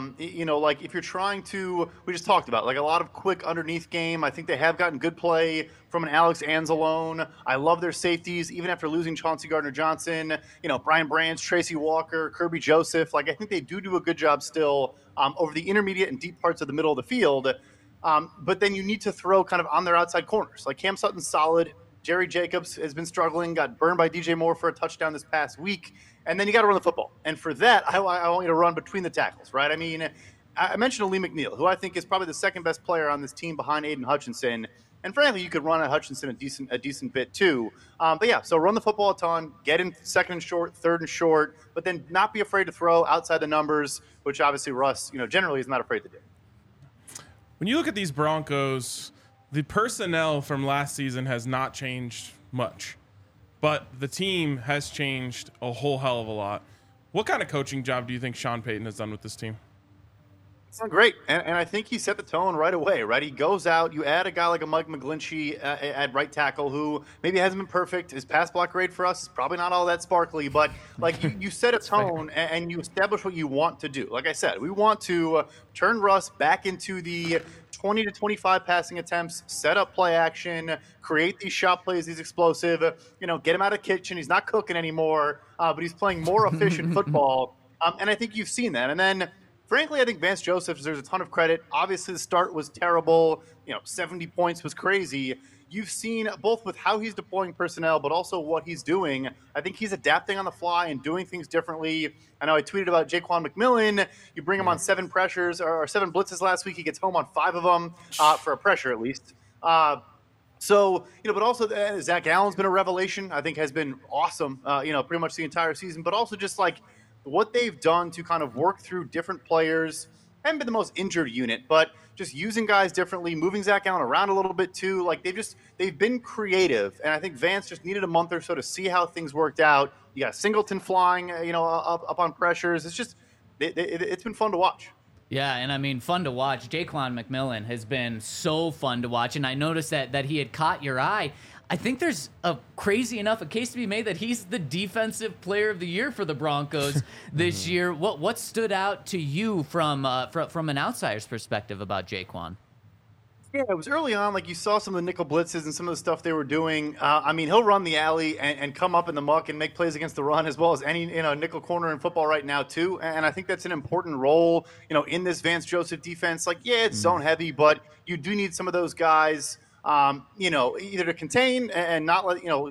Like if you're trying to, we just talked about, like a lot of quick underneath game. I think they have gotten good play from an Alex Anzalone. I love their safeties, even after losing Chauncey Gardner-Johnson, Brian Branch, Tracy Walker, Kirby Joseph. Like I think they do a good job still over the intermediate and deep parts of the middle of the field. But then you need to throw kind of on their outside corners. Like Cam Sutton's solid. Jerry Jacobs has been struggling, got burned by DJ Moore for a touchdown this past week. And then you got to run the football. And for that, I want you to run between the tackles, right? I mean, I mentioned Lee McNeil, who I think is probably the second best player on this team behind Aiden Hutchinson. And frankly, you could run at Hutchinson a decent bit too. But yeah, so run the football a ton, get in second and short, third and short, but then not be afraid to throw outside the numbers, which obviously Russ, generally is not afraid to do. When you look at these Broncos, the personnel from last season has not changed much, but the team has changed a whole hell of a lot. What kind of coaching job do you think Sean Payton has done with this team? It's not great, and I think he set the tone right away, right? He goes out, you add a guy like a Mike McGlinchey at right tackle who maybe hasn't been perfect. His pass block grade for us is probably not all that sparkly, but like you set a tone and you establish what you want to do. Like I said, we want to turn Russ back into the 20 to 25 passing attempts, set up play action, create these shot plays, these explosive, get him out of the kitchen. He's not cooking anymore, but he's playing more efficient football. And I think you've seen that. And then, frankly, I think Vance Joseph deserves a ton of credit. Obviously, the start was terrible. 70 points was crazy. You've seen both with how he's deploying personnel, but also what he's doing. I think he's adapting on the fly and doing things differently. I know I tweeted about Jaquan McMillan. You bring him on 7 pressures or 7 blitzes last week. He gets home on 5 of them for a pressure at least. But also Zach Allen's been a revelation. I think has been awesome, pretty much the entire season. But also just like what they've done to kind of work through different players. Haven't been the most injured unit, but just using guys differently, moving Zach Allen around a little bit too. Like they've been creative, and I think Vance just needed a month or so to see how things worked out. You got Singleton flying, up on pressures. It's just it's been fun to watch. Yeah, and I mean, fun to watch. Jaquan McMillan has been so fun to watch, and I noticed that he had caught your eye. I think there's a crazy enough a case to be made that he's the defensive player of the year for the Broncos this year. What stood out to you from an outsider's perspective about Jaquan? Yeah, it was early on. Like, you saw some of the nickel blitzes and some of the stuff they were doing. I mean, he'll run the alley and come up in the muck and make plays against the run as well as any nickel corner in football right now too. And I think that's an important role, in this Vance Joseph defense. Like, yeah, it's zone heavy, but you do need some of those guys, either to contain and not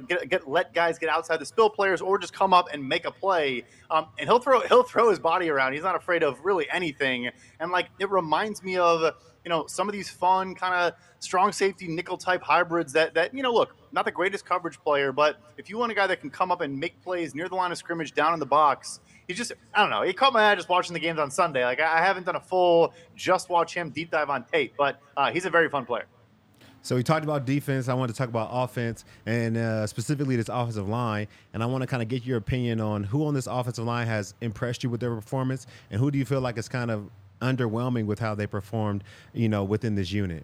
let guys get outside the spill players, or just come up and make a play. And he'll throw his body around. He's not afraid of really anything. And like, it reminds me of some of these fun kind of strong safety nickel type hybrids that look, not the greatest coverage player, but if you want a guy that can come up and make plays near the line of scrimmage down in the box, he's just, I don't know. He caught my eye just watching the games on Sunday. Like, I haven't done a full just watch him deep dive on tape, but he's a very fun player. So we talked about defense. I wanted to talk about offense, and specifically this offensive line. And I want to kind of get your opinion on who on this offensive line has impressed you with their performance, and who do you feel like is kind of underwhelming with how they performed, within this unit.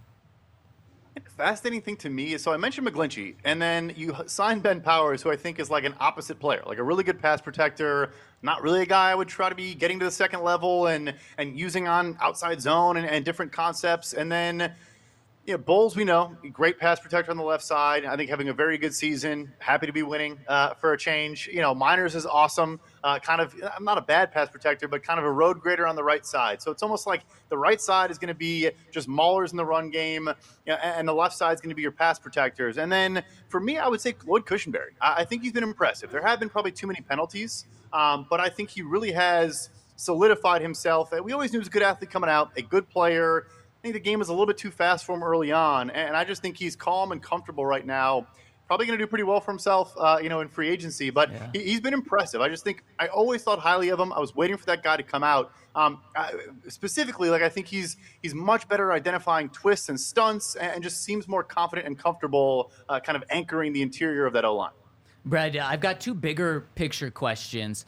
Fascinating thing to me is, so I mentioned McGlinchey, and then you signed Ben Powers, who I think is like an opposite player, like a really good pass protector, not really a guy I would try to be getting to the second level and using on outside zone and different concepts. And then Bowles, we know, great pass protector on the left side. I think having a very good season. Happy to be winning for a change. Miners is awesome. Kind of, I'm not a bad pass protector, but kind of a road grader on the right side. So it's almost like the right side is going to be just maulers in the run game, and the left side is going to be your pass protectors. And then for me, I would say Lloyd Cushenberry. I think he's been impressive. There have been probably too many penalties, but I think he really has solidified himself. We always knew he was a good athlete coming out, a good player. I think the game was a little bit too fast for him early on, and I just think he's calm and comfortable right now. Probably going to do pretty well for himself, in free agency, but he's been impressive. I just think I always thought highly of him. I was waiting for that guy to come out. Specifically, I think he's much better at identifying twists and stunts, and just seems more confident and comfortable, kind of anchoring the interior of that O-line. Brad, I've got two bigger picture questions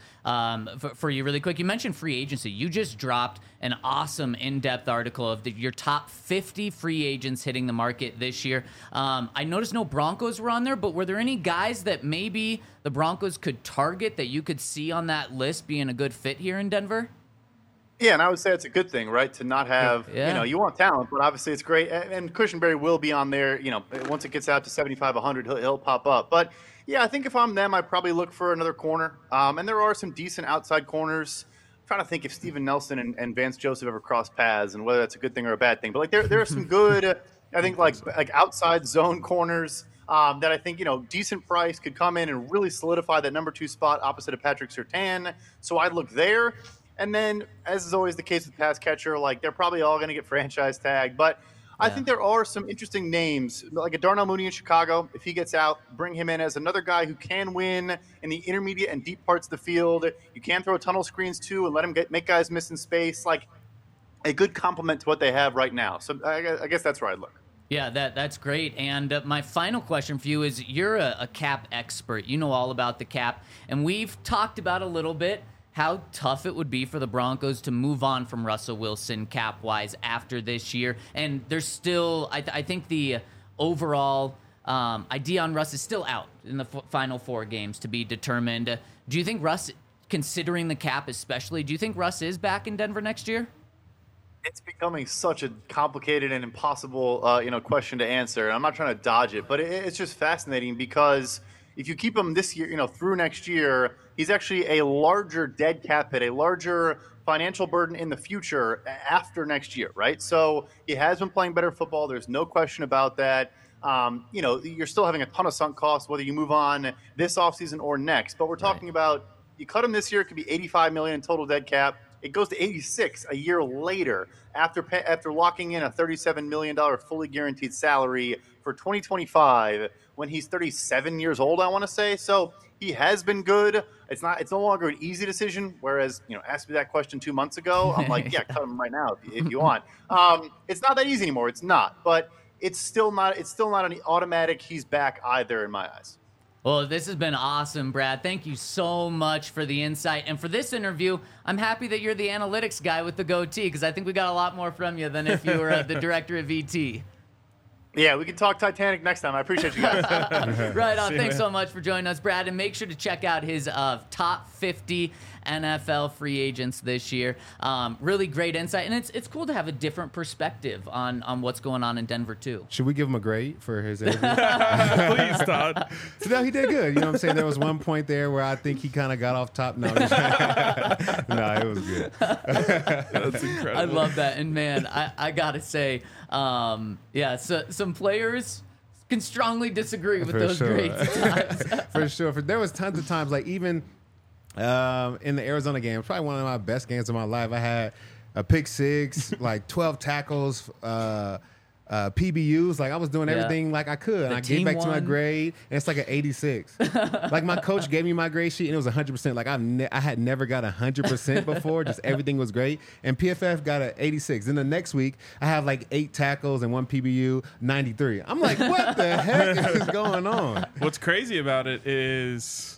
for you really quick. You mentioned free agency. You just dropped an awesome in-depth article of your top 50 free agents hitting the market this year. I noticed no Broncos were on there, but were there any guys that maybe the Broncos could target that you could see on that list being a good fit here in Denver? Yeah, and I would say it's a good thing, right, to not have, you want talent, but obviously it's great. And Cushenberry will be on there, once it gets out to 75, 100, he'll pop up. But yeah, I think if I'm them, I'd probably look for another corner. And there are some decent outside corners. I'm trying to think if Steven Nelson and Vance Joseph ever crossed paths and whether that's a good thing or a bad thing. But there are some good, I think, like outside zone corners that I think, decent price could come in and really solidify that number 2 spot opposite of Patrick Surtain. So I'd look there. And then, as is always the case with pass catcher, they're probably all going to get franchise tagged. But I think there are some interesting names, like a Darnell Mooney in Chicago. If he gets out, bring him in as another guy who can win in the intermediate and deep parts of the field. You can throw tunnel screens too and let him make guys miss in space. Like a good complement to what they have right now. So I guess that's where I'd look. Yeah, that's great. And my final question for you is, you're a cap expert. You know all about the cap. And we've talked about a little bit how tough it would be for the Broncos to move on from Russell Wilson cap-wise after this year. And there's still, I think the overall idea on Russ is still out in the final 4 games to be determined. Do you think Russ, considering the cap especially, do you think Russ is back in Denver next year? It's becoming such a complicated and impossible, question to answer. I'm not trying to dodge it, but it's just fascinating because if you keep him this year, through next year, he's actually a larger dead cap hit, a larger financial burden in the future after next year, right? So he has been playing better football. There's no question about that. You're still having a ton of sunk costs, whether you move on this offseason or next. But we're talking about, you cut him this year, it could be $85 million in total dead cap. It goes to 86 a year later after locking in a $37 million fully guaranteed salary for 2025 when he's 37 years old, I want to say. So he has been good. It's no longer an easy decision. Whereas, ask me that question 2 months ago, I'm like, yeah, cut him right now if you want. It's not that easy anymore. It's not. But it's still not an automatic he's back either in my eyes. Well, this has been awesome, Brad. Thank you so much for the insight. And for this interview, I'm happy that you're the analytics guy with the goatee, because I think we got a lot more from you than if you were the director of VT. Yeah, we can talk Titanic next time. I appreciate you guys. Right on. Thanks so much for joining us, Brad. And make sure to check out his top 50 NFL free agents this year. Really great insight. And it's cool to have a different perspective on what's going on in Denver, too. Should we give him a grade for his interview? Please, Todd. So, no, he did good. You know what I'm saying? There was one point there where I think he kind of got off top. No, no, it was good. That's incredible. I love that. And, man, I got to say, yeah, so some players can strongly disagree with For those sure. grades at times. For sure. There was tons of times, like even in the Arizona game, probably one of my best games of my life. I had a pick six, like 12 tackles, PBUs. Like I was doing Yeah. everything like I could. And The I team gave back to my won. grade, and it's like an 86. Like my coach gave me my grade sheet, and it was 100%. Like I had never got 100% before. Just everything was great. And PFF got an 86. Then the next week, I have like 8 tackles and 1 PBU, 93. I'm like, what the heck is going on? What's crazy about it is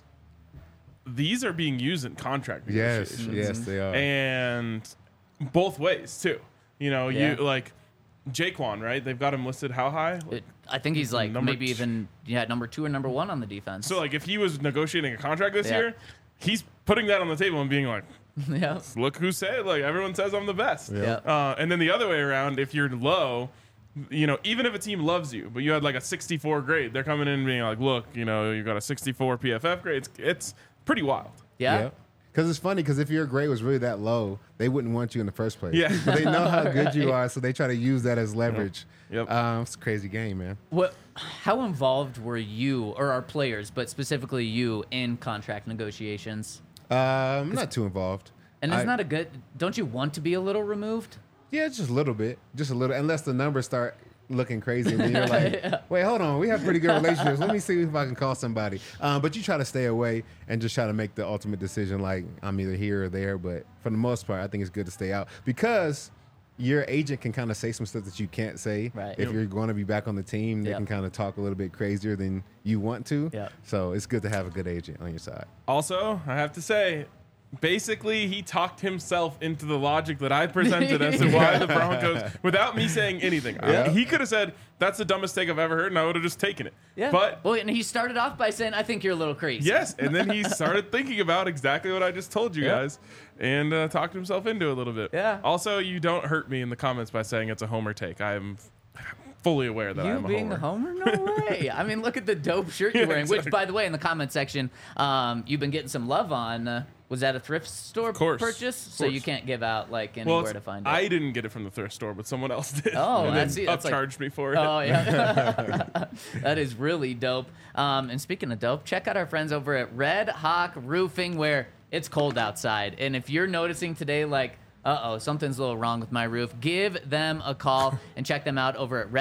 these are being used in contract Yes, negotiations. yes, they are. And both ways, too. You know, Yeah. you like Jaquan, right? They've got him listed how high? I think he's like Number maybe two. even number 2 or number 1 on the defense. So, like, if he was negotiating a contract this Yeah. year, he's putting that on the table and being like, yeah. look who said, like, everyone says I'm the best. Yeah. And then the other way around, if you're low, you know, even if a team loves you, but you had like a 64 grade, they're coming in and being like, look, you know, you got a 64 PFF grade. It's pretty wild. Yeah. Because it's funny, because if your grade was really that low, they wouldn't want you in the first place. Yeah. But they know how good you are, so they try to use that as leverage. Yep. It's a crazy game, man. How involved were you or our players, but specifically you, in contract negotiations? I'm not too involved. And I- isn't that a good? Don't you want to be a little removed? Yeah, just a little bit. Just a little. Unless the numbers start looking crazy, and then you're like, wait, hold on. We have pretty good relationships. Let me see if I can call somebody. But you try to stay away and just try to make the ultimate decision, like, I'm either here or there. But for the most part, I think it's good to stay out because your agent can kind of say some stuff that you can't say. Right. If you're going to be back on the team, they Yep. can kind of talk a little bit crazier than you want to. Yep. So it's good to have a good agent on your side. Also, I have to say, basically, he talked himself into the logic that I presented as to why the Broncos, without me saying anything. Yeah. He could have said, that's the dumbest take I've ever heard, and I would have just taken it. Yeah. But well, and he started off by saying, "I think you're a little crazy." yes, and then he started thinking about exactly what I just told you Yeah. guys and talked himself into it a little bit. Yeah. Also, you don't hurt me in the comments by saying it's a homer take. I am fully aware that You I'm a being homer. a homer? No way. I mean, look at the dope shirt you're Yeah, wearing, which, exactly. by the way, in the comment section, you've been getting some love on. Was that a thrift store course, purchase? So course. you can't give out like Well, anywhere to find it. I didn't get it from the thrift store, but someone else did. Oh, and that's- then that's like- upcharged me for it. Oh yeah, that is really dope. And speaking of dope, check out our friends over at Red Hawk Roofing, where it's cold outside, and if you're noticing today, like, something's a little wrong with my roof, give them a call and check them out over at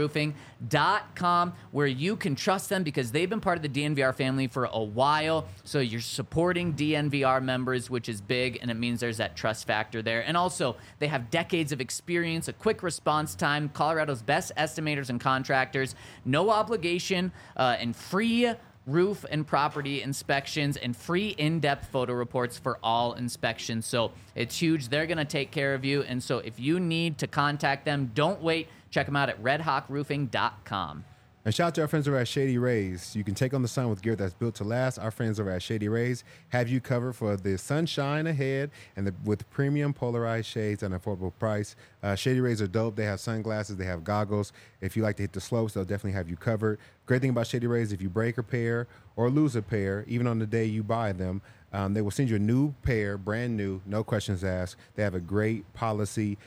redhawkroofing.com, where you can trust them because they've been part of the DNVR family for a while. So you're supporting DNVR members, which is big, and it means there's that trust factor there. And also, they have decades of experience, a quick response time, Colorado's best estimators and contractors, no obligation, and free roof and property inspections, and free in-depth photo reports for all inspections. So it's huge. They're going to take care of you. And so if you need to contact them, don't wait. Check them out at redhawkroofing.com. And shout out to our friends over at Shady Rays. You can take on the sun with gear that's built to last. Our friends over at Shady Rays have you covered for the sunshine ahead and with premium polarized shades at an affordable price. Shady Rays are dope. They have sunglasses. They have goggles. If you like to hit the slopes, they'll definitely have you covered. Great thing about Shady Rays, if you break a pair or lose a pair, even on the day you buy them, they will send you a new pair, brand new, no questions asked. They have a great policy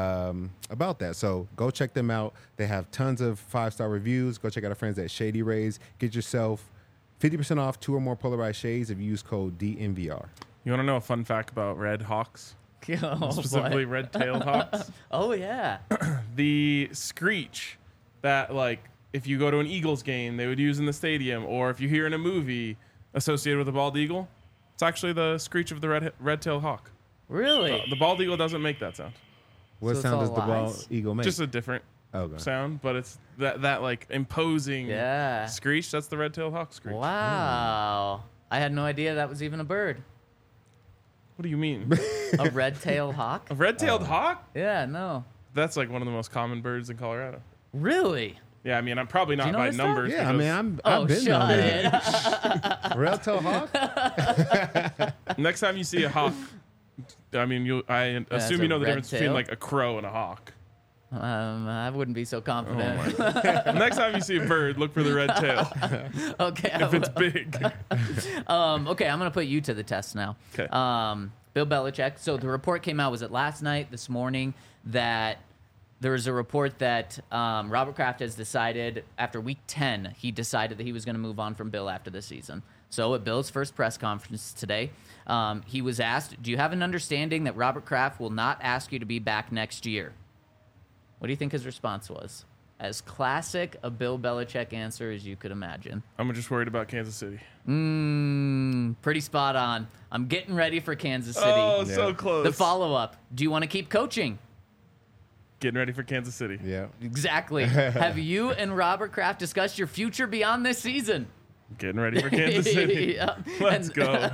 about that. So go check them out. They have tons of 5-star reviews. Go check out our friends at Shady Rays. Get yourself 50% off 2 or more polarized shades if you use code DNVR. You want to know a fun fact about red hawks? Oh, Specifically boy. red-tailed hawks? Oh, yeah. The screech that, like, if you go to an Eagles game, they would use in the stadium, or if you hear in a movie associated with a bald eagle, it's actually the screech of the red-tailed hawk. Really? The bald eagle doesn't make that sound. What So it's sound all does the bald lies? eagle make? Just a different Okay. sound, but it's that like imposing Yeah. screech. That's the red-tailed hawk screech. Wow. I had no idea that was even a bird. What do you mean? A red-tailed hawk? A red-tailed hawk? Yeah, no. That's like one of the most common birds in Colorado. Really? Yeah, I mean, I'm probably not you know by this stuff? numbers. Yeah, I mean, because I've been on shut that. it. Rail tail hawk. next time you see a hawk, I mean, I assume a you know the red difference between tail? like a crow and a hawk. I wouldn't be so confident. Next time you see a bird, look for the red tail Okay. if it's big. Okay, I'm gonna put you to the test now. Okay. Bill Belichick. So the report came out, was it last night, this morning, that there was a report that Robert Kraft has decided after week 10, he decided that he was going to move on from Bill after the season. So at Bill's first press conference today, he was asked, do you have an understanding that Robert Kraft will not ask you to be back next year? What do you think his response was? As classic a Bill Belichick answer as you could imagine. I'm just worried about Kansas City. Pretty spot on. I'm getting ready for Kansas City. Oh, so close. The follow-up. Do you want to keep coaching? Getting ready for Kansas City. Yeah. Exactly. Have you and Robert Kraft discussed your future beyond this season? Getting ready for Kansas City. Yeah. Let's go.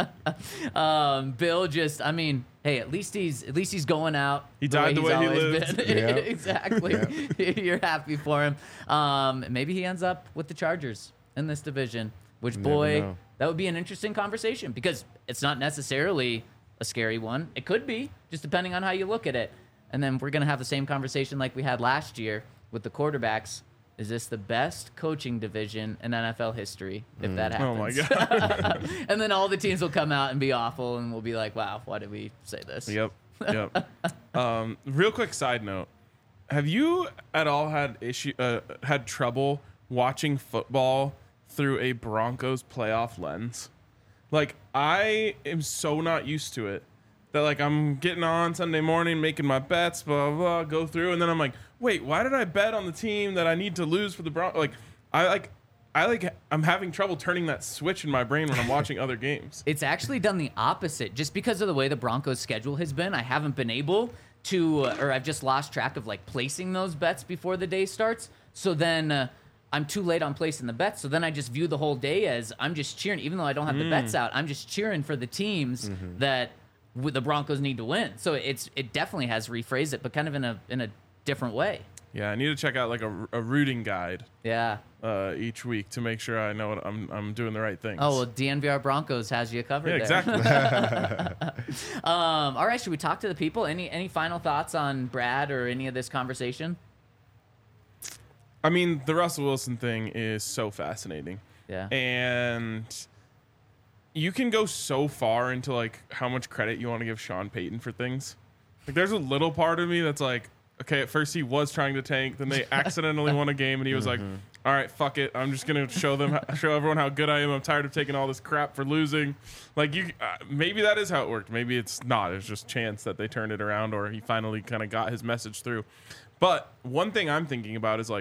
Bill just, I mean, hey, at least he's going out. He died the way he always lived. been. Yeah. Exactly. You're happy for him. Maybe he ends up with the Chargers in this division, which, Never boy, know. that would be an interesting conversation because it's not necessarily a scary one. It could be, just depending on how you look at it. And then we're going to have the same conversation like we had last year with the quarterbacks. Is this the best coaching division in NFL history if that Oh my happens? God. And then all the teams will come out and be awful, and we'll be like, wow, why did we say this? Yep. Real quick side note: have you at all had trouble watching football through a Broncos playoff lens? Like, I am so not used to it that like I'm getting on Sunday morning, making my bets, blah blah blah, go through, and then I'm like, wait, why did I bet on the team that I need to lose for the Broncos? I'm having trouble turning that switch in my brain when I'm watching other games. It's actually done the opposite. Just because of the way the Broncos' schedule has been, I haven't been able to, or I've just lost track of like placing those bets before the day starts. So then I'm too late on placing the bets. So then I just view the whole day as I'm just cheering, even though I don't have the bets out. I'm just cheering for the teams that the Broncos need to win. So it definitely has rephrased it, but kind of in a different way. Yeah, I need to check out like a rooting guide Yeah. each week to make sure I know what I'm doing the right things. Oh, well, DNVR Broncos has you covered yeah, there. exactly. All right, should we talk to the people? Any final thoughts on Brad or any of this conversation? I mean, the Russell Wilson thing is so fascinating. Yeah. And you can go so far into like how much credit you want to give Sean Payton for things. Like, there's a little part of me that's like, okay, at first he was trying to tank, then they accidentally won a game, and he was like, all right, fuck it, I'm just gonna show everyone how good I am. I'm tired of taking all this crap for losing. Like, maybe that is how it worked. Maybe it's not. It's just chance that they turned it around, or he finally kind of got his message through. But one thing I'm thinking about is like,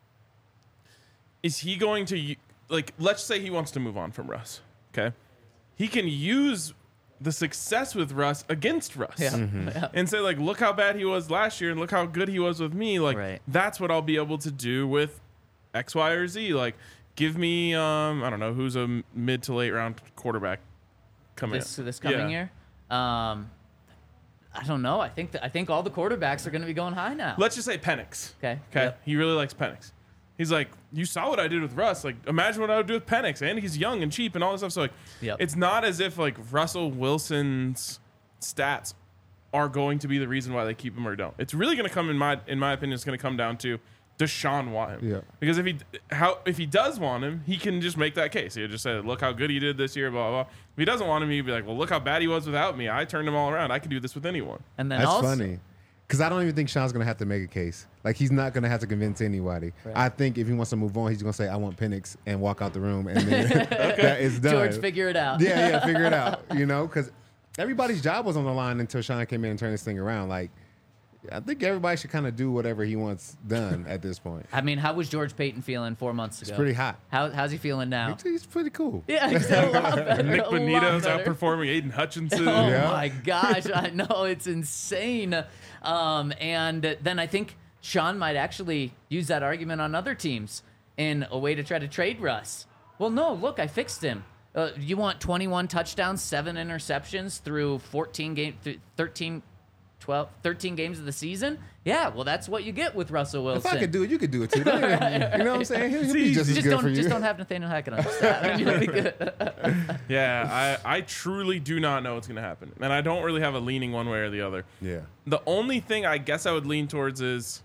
is he going to, like, let's say he wants to move on from Russ, okay? He can use the success with Russ against Russ. Yeah. And say, like, look how bad he was last year and look how good he was with me. Like, Right. that's what I'll be able to do with X, Y, or Z. Like, give me, I don't know, who's a mid to late round quarterback coming This coming year? I don't know. I think all the quarterbacks are going to be going high now. Let's just say Penix. Okay. Okay. Yep. He really likes Penix. He's like, you saw what I did with Russ. Like, imagine what I would do with Penix. And he's young and cheap and all this stuff. So, like, Yep. it's not as if, like, Russell Wilson's stats are going to be the reason why they keep him or don't. It's really going to come, in my opinion, it's going to come down to, does Sean want him? Yeah. Because if he does want him, he can just make that case. He'll just say, look how good he did this year, blah, blah, blah. If he doesn't want him, he'd be like, well, look how bad he was without me. I turned him all around. I can do this with anyone. And then That's also, funny. Because I don't even think Sean's going to have to make a case. Like, he's not going to have to convince anybody. Right. I think if he wants to move on, he's going to say, I want Penix, and walk out the room. And then that is done. George, figure it out. Yeah, figure it out. You know, because everybody's job was on the line until Sean came in and turned this thing around. Like, I think everybody should kind of do whatever he wants done at this point. I mean, how was George Payton feeling 4 months ago? It's pretty hot. How's he feeling now? He's pretty cool. Yeah, he's a lot better. Nick a lot Bonito's better. outperforming Aiden Hutchinson. Oh Yeah. my gosh, I know, it's insane. And then I think Sean might actually use that argument on other teams in a way to try to trade Russ. Well, no, look, I fixed him. You want 21 touchdowns, 7 interceptions through 13 13 games of the season. Yeah, well, that's what you get with Russell Wilson. If I could do it, you could do it too. Don't even- you know what I'm saying? He'll be just as good for you. Just don't have Nathaniel Hackett on your staff, and you'll be good. Yeah, I truly do not know what's going to happen. And I don't really have a leaning one way or the other. Yeah. The only thing I guess I would lean towards is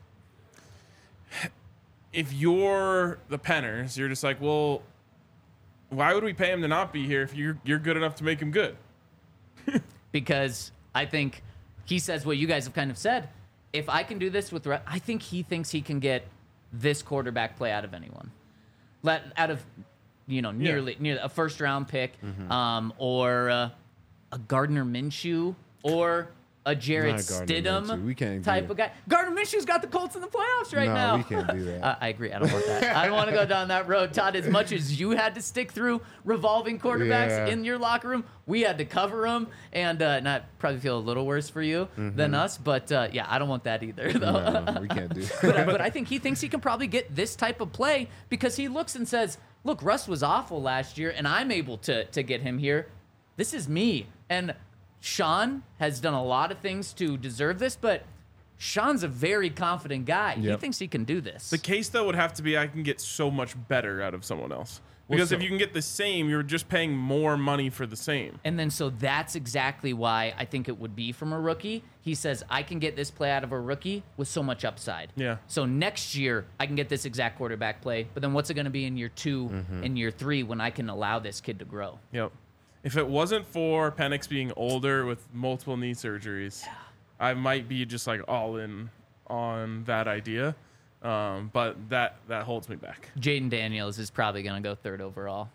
if you're the Penners, you're just like, well, why would we pay him to not be here if you're good enough to make him good? Because I think he says what you guys have kind of said. If I can do this with, I think he thinks he can get this quarterback play out of anyone, out of nearly a first round pick, or a Gardner Minshew, or a Jarrett Not Gardner Minshew. Stidham We can't do type it. of guy. Gardner Minshew's got the Colts in the playoffs right No, now. we can't do that. I agree. I don't want that. I don't want to go down that road, Todd. As much as you had to stick through revolving quarterbacks Yeah. in your locker room, we had to cover them, and I probably feel a little worse for you than us. But yeah, I don't want that either, though. No, we can't do But I think he thinks he can probably get this type of play because he looks and says, "Look, Russ was awful last year, and I'm able to get him here. This is me." And Sean has done a lot of things to deserve this, but Sean's a very confident guy. He Yep. thinks he can do this. The case, though, would have to be I can get so much better out of someone else. Because if you can get the same, you're just paying more money for the same. And then so that's exactly why I think it would be from a rookie. He says, I can get this play out of a rookie with so much upside. Yeah. So next year, I can get this exact quarterback play. But then what's it going to be in year 2 and year 3 when I can allow this kid to grow? Yep. If it wasn't for Penix being older with multiple knee surgeries, I might be just like all in on that idea. But that holds me back. Jaden Daniels is probably going to go 3rd overall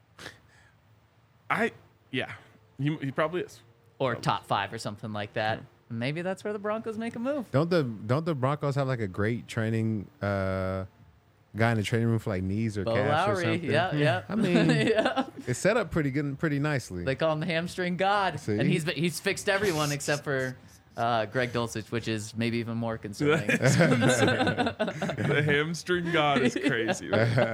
He probably is. or top 5 or something like that. Maybe that's where the Broncos make a move. Don't the Broncos have like a great training guy in the training room for like knees or Bo calves or Lowry, something? yeah. I mean, Yeah. it's set up pretty good and pretty nicely. They call him the hamstring god, See? and he's fixed everyone except for Greg Dulcich, which is maybe even more concerning. The hamstring god is crazy.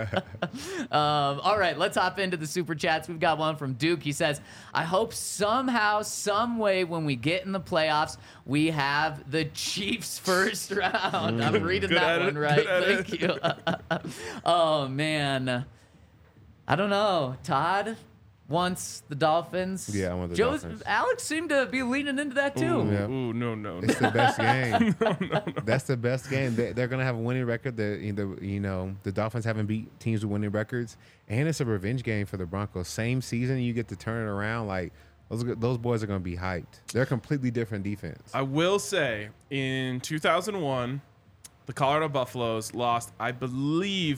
All right, let's hop into the super chats. We've got one from Duke. He says, "I hope somehow, some way, when we get in the playoffs, we have the Chiefs first round." I'm reading Good that edit, one right. good Thank you. Oh man, I don't know. Todd wants the Dolphins. Yeah, I want the Joe's, Dolphins. Alex seemed to be leaning into that too. Yeah. Ooh, no. It's the best game. That's the best game. They're gonna have a winning record. The Dolphins haven't beat teams with winning records, and it's a revenge game for the Broncos. Same season, you get to turn it around. Like those boys are gonna be hyped. They're a completely different defense. I will say, in 2001, the Colorado Buffaloes lost, I believe,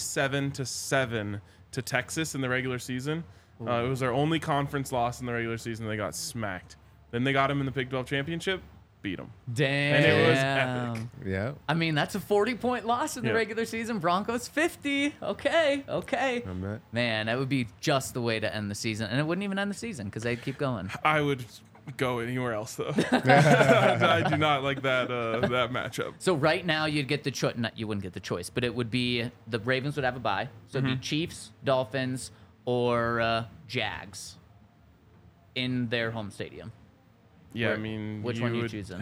47-7 to Texas in the regular season. It was their only conference loss in the regular season. They got smacked. Then they got him in the Big 12 championship, beat them. Damn. And it was epic. Yeah. I mean, that's a 40-point loss in the Yeah. regular season. Broncos 50. Okay. Man, that would be just the way to end the season. And it wouldn't even end the season because they'd keep going. I would go anywhere else, though. I do not like that matchup. So right now you'd get the choice. You wouldn't get the choice, but it would be the Ravens would have a bye. So it'd be Chiefs, Dolphins, or Jags in their home stadium. Yeah, I mean, Which one are you choosing?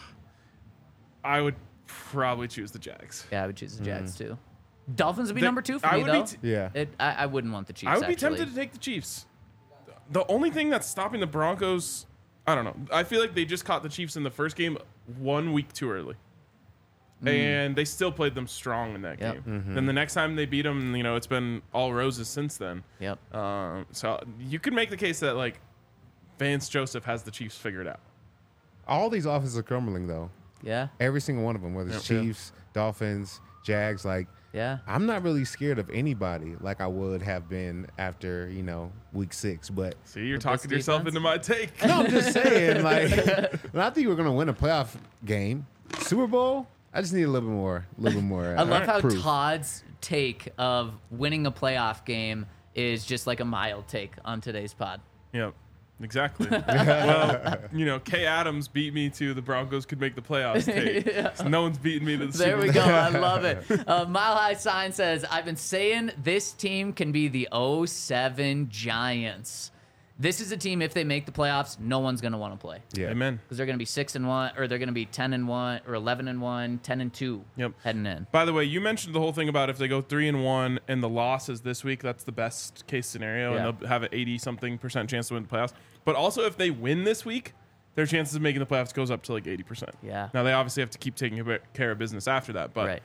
I would probably choose the Jags. Yeah, I would choose the Jags too. Dolphins would be The- number 2 for I me, would though. Yeah. I wouldn't want the Chiefs, I would be actually. tempted to take the Chiefs. The only thing that's stopping the Broncos, I don't know. I feel like they just caught the Chiefs in the first game 1 week too early. And they still played them strong in that Yep. game. Then the next time they beat them, it's been all roses since then. Yep. So you could make the case that, like, Vance Joseph has the Chiefs figured out. All these offenses are crumbling though. Yeah. Every single one of them, whether it's Yeah. Chiefs, Dolphins, Jags. Like, Yeah. I'm not really scared of anybody like I would have been after week 6. But See, you're With talking this yourself defense? into my take. no, I'm just saying, like, when I think we're gonna win a playoff game, Super Bowl. I just need a little bit more. I love how proof. Todd's take of winning a playoff game is just like a mild take on today's pod. Yep, exactly. Well, Kay Adams beat me to the Broncos could make the playoffs tape. So no one's beating me to the There Super we Bowl. go. I love it. Mile High Sign says, I've been saying this team can be the 07 Giants. this is a team, if they make the playoffs, no one's going to want to play. Yeah. Amen. Because they're going to be 6-1, or they're going to be 10-1, or 11-1, 10-2 heading in. By the way, you mentioned the whole thing about if they go 3-1 and the loss is this week, that's the best case scenario, and they'll have an 80-something% chance to win the playoffs. But also, if they win this week, their chances of making the playoffs goes up to like 80%. Yeah. Now they obviously have to keep taking care of business after that, but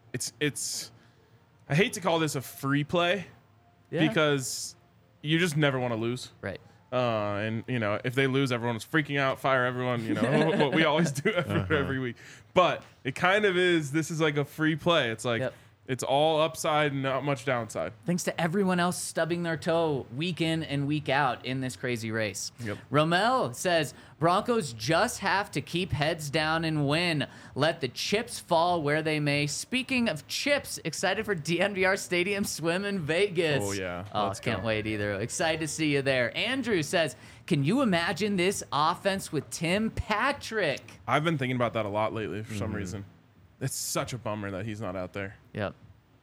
it's. I hate to call this a free play because you just never want to lose. Right. And you know, if they lose, everyone is freaking out, fire everyone. You know what we always do every week. But it kind of is. This is like a free play. It's like it's all upside and not much downside. Thanks to everyone else stubbing their toe week in and week out in this crazy race. Yep. Romel says, Broncos just have to keep heads down and win. Let the chips fall where they may. Speaking of chips, excited for DNVR Stadium Swim in Vegas. Oh, yeah. Oh, Let's can't go. wait either. Excited to see you there. Andrew says, can you imagine this offense with Tim Patrick? I've been thinking about that a lot lately for some reason. It's such a bummer that he's not out there. Yep.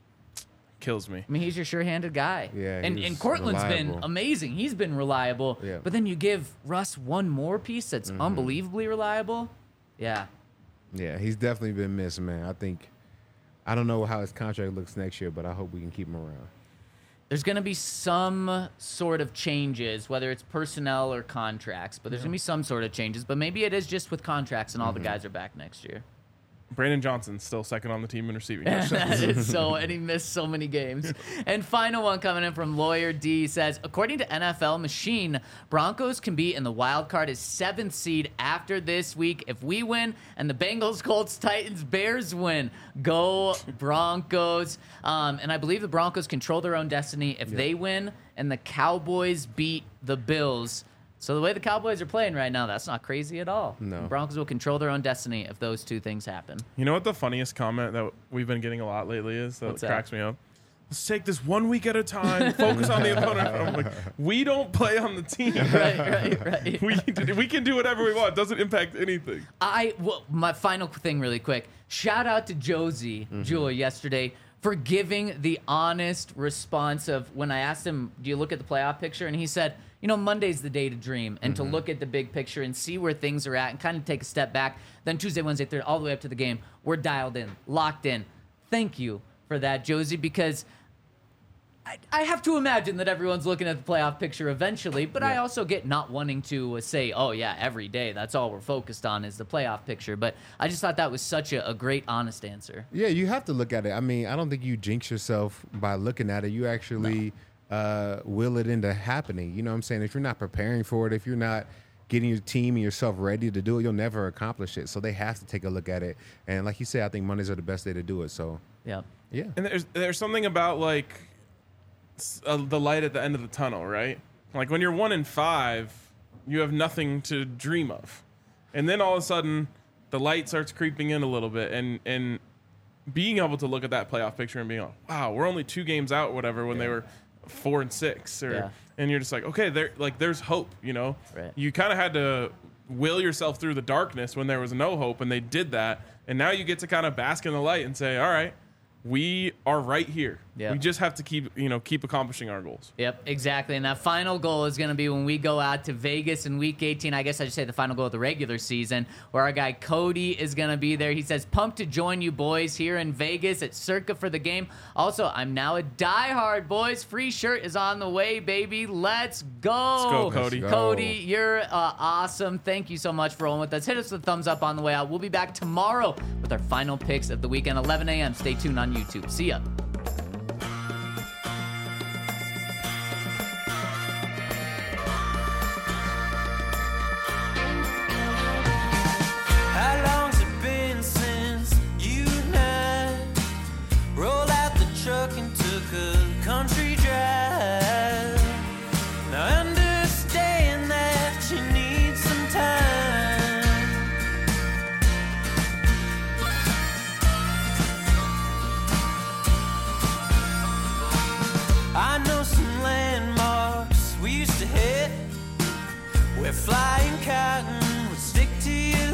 Kills me. I mean, he's your sure-handed guy. Yeah, and he's Cortland's been reliable. amazing. He's been reliable. Yeah. But then you give Russ one more piece that's unbelievably reliable. Yeah. Yeah, he's definitely been missed, man. I don't know how his contract looks next year, but I hope we can keep him around. There's going to be some sort of changes, whether it's personnel or contracts, but there's going to be some sort of changes. But maybe it is just with contracts and all the guys are back next year. Brandon Johnson's still second on the team in receiving. That is so, and he missed so many games. And final one coming in from Lawyer D says, according to NFL Machine, Broncos can be in the wild card as 7th seed after this week if we win and the Bengals, Colts, Titans, Bears win. Go Broncos. And I believe the Broncos control their own destiny if they win and the Cowboys beat the Bills. So the way the Cowboys are playing right now, that's not crazy at all. No. The Broncos will control their own destiny if those two things happen. You know what the funniest comment that we've been getting a lot lately is? What's that? Cracks me up. Let's take this 1 week at a time. Focus on the opponent. I'm like, we don't play on the team. Right. We can do whatever we want. It doesn't impact anything. My final thing really quick. Shout out to Josie Jewell yesterday for giving the honest response of when I asked him, do you look at the playoff picture? And he said, you know, Monday's the day to dream and to look at the big picture and see where things are at and kind of take a step back. Then Tuesday, Wednesday, Thursday, all the way up to the game, we're dialed in, locked in. Thank you for that, Josie, because I have to imagine that everyone's looking at the playoff picture eventually, but I also get not wanting to say, oh, yeah, every day, that's all we're focused on is the playoff picture. But I just thought that was such a great, honest answer. Yeah, you have to look at it. I mean, I don't think you jinx yourself by looking at it. You actually will it into happening. You know what I'm saying? If you're not preparing for it, if you're not getting your team and yourself ready to do it, you'll never accomplish it. So they have to take a look at it. And like you said, I think Mondays are the best day to do it. So, Yeah. And there's something about like the light at the end of the tunnel, right? Like when you're 1-5, you have nothing to dream of, and then all of a sudden the light starts creeping in a little bit, and being able to look at that playoff picture and being like, wow, we're only 2 games out, whatever, when they were 4-6, and you're just like, okay, there's hope, you know. Right. You kind of had to will yourself through the darkness when there was no hope, and they did that, and now you get to kind of bask in the light and say, all right, we are right here. Yeah. We just have to keep accomplishing our goals. Yep, exactly. And that final goal is going to be when we go out to Vegas in Week 18. I guess I should say the final goal of the regular season, where our guy Cody is going to be there. He says, pumped to join you boys here in Vegas at Circa for the game. Also, I'm now a diehard, boys. Free shirt is on the way, baby. Let's go. Let's go, Cody. Let's go. Cody, you're awesome. Thank you so much for rolling with us. Hit us with a thumbs up on the way out. We'll be back tomorrow with our final picks of the weekend, 11 a.m. Stay tuned on YouTube. See ya. How long's it been since you and I rolled out the truck and took a country drive? Now I understand that you need some time. I know some landmarks we used to hit where flying cotton would stick to your